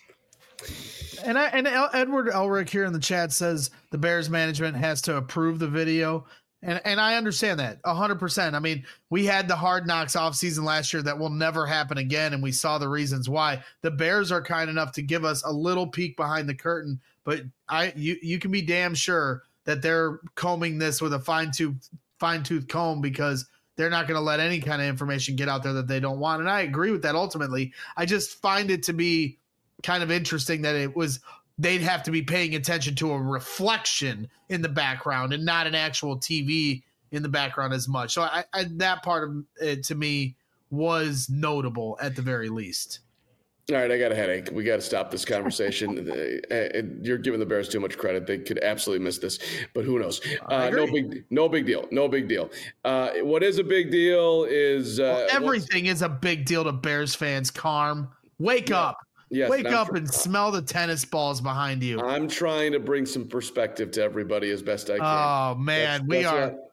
And I, and Edward Elric here in the chat says the Bears management has to approve the video. And and I understand that one hundred percent. I mean, we had the Hard Knocks offseason last year that will never happen again, and we saw the reasons why. The Bears are kind enough to give us a little peek behind the curtain, but I you you can be damn sure that they're combing this with a fine-tooth fine-tooth comb because they're not going to let any kind of information get out there that they don't want. And I agree with that ultimately. I just find it to be kind of interesting that it was – they'd have to be paying attention to a reflection in the background and not an actual T V in the background as much. So I, I, that part of it to me was notable at the very least. All right, I got a headache. We got to stop this conversation. You're giving the Bears too much credit. They could absolutely miss this, but who knows? Uh, no big, no big deal. No big deal. Uh, what is a big deal is uh, well, everything is a big deal to Bears fans. Carm, wake yeah. up. Yes, Wake and up tr- and smell the tennis balls behind you. I'm trying to bring some perspective to everybody as best I can. Oh, man. That's, we that's are what,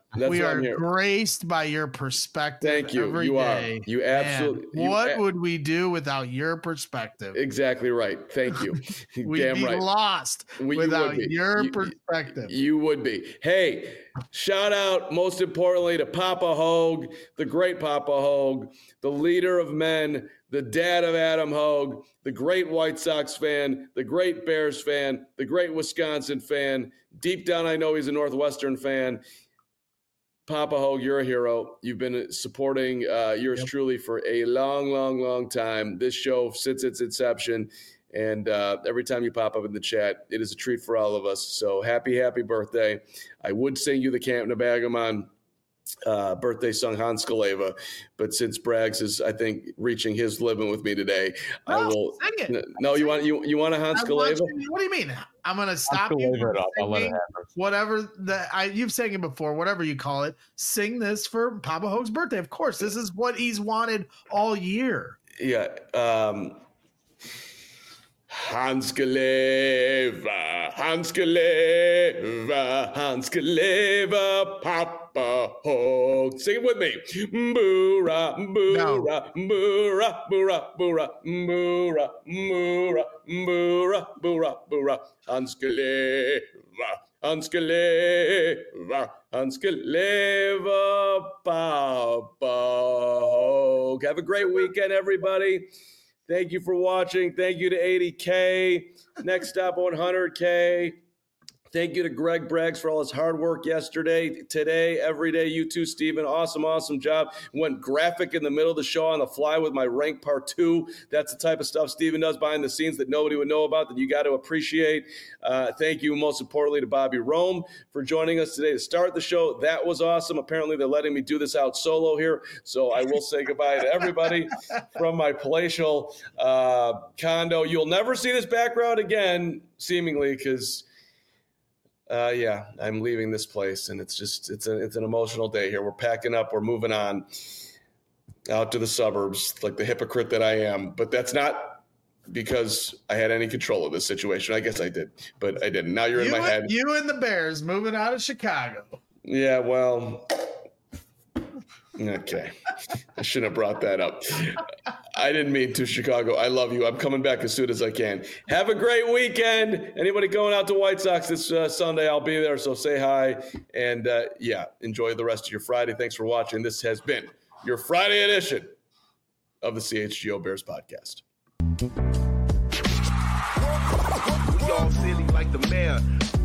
That's we what are I'm here. graced by your perspective. Thank you. Every You day. are. You absolutely. Man, you what a- would we do without your perspective? Exactly right. Thank you. We'd Damn be right. lost We- you without would be. your You- perspective. You would be. Hey, shout out most importantly to Papa Hogue, the great Papa Hogue, the leader of men, the dad of Adam Hogue, the great White Sox fan, the great Bears fan, the great Wisconsin fan. Deep down, I know he's a Northwestern fan. Papa Hogue, you're a hero. You've been supporting uh, yours Yep. truly for a long, long, long time. This show, since its inception, and uh, every time you pop up in the chat, it is a treat for all of us. So happy, happy birthday. I would sing you the Camp Nabagamon uh, birthday song, Hans Kaleva, but since Braggs is, I think, reaching his limit with me today, I No, will. sing it. No, you want you you want a Hans I want Kaleva? you- What do you mean? I'm gonna stop you Kaleva from it up. I'll let it singing happen. whatever that I you've sang it before, whatever you call it. Sing this for Papa Hogue's birthday. Of course, this is what he's wanted all year. Yeah. Um, Hans Kaleva, Hans Kaleva, Hans Kaleva, Papa Hogue. Sing it with me. Boora, boora, boora, boora, boora, boora, boora, boora, boora, boora. Hans Kaleva, Hans Kaleva, Hans Kaleva, Papa Hogue. Have a great weekend, everybody. Thank you for watching. Thank you to eighty K. Next up, one hundred K. Thank you to Greg Braggs for all his hard work yesterday, today, every day. You too, Steven. Awesome, awesome job. Went graphic in the middle of the show on the fly with my rank part two. That's the type of stuff Steven does behind the scenes that nobody would know about that you got to appreciate. Uh, thank you, most importantly, to Bobby Rome for joining us today to start the show. That was awesome. Apparently, they're letting me do this out solo here, so I will say goodbye to everybody from my palatial uh, condo. You'll never see this background again, seemingly, because... Uh, yeah, I'm leaving this place, and it's just it's a it's an emotional day here. We're packing up, we're moving on out to the suburbs, like the hypocrite that I am. But that's not because I had any control of this situation. I guess I did, but I didn't. Now you're You in my and, head. you and the Bears moving out of Chicago. Yeah, well, okay. I shouldn't have brought that up. I didn't mean to, Chicago. I love you. I'm coming back as soon as I can. Have a great weekend. Anybody going out to White Sox this uh, Sunday, I'll be there, so say hi. And, uh, yeah, enjoy the rest of your Friday. Thanks for watching. This has been your Friday edition of the C H G O Bears podcast. We all silly like the mayor.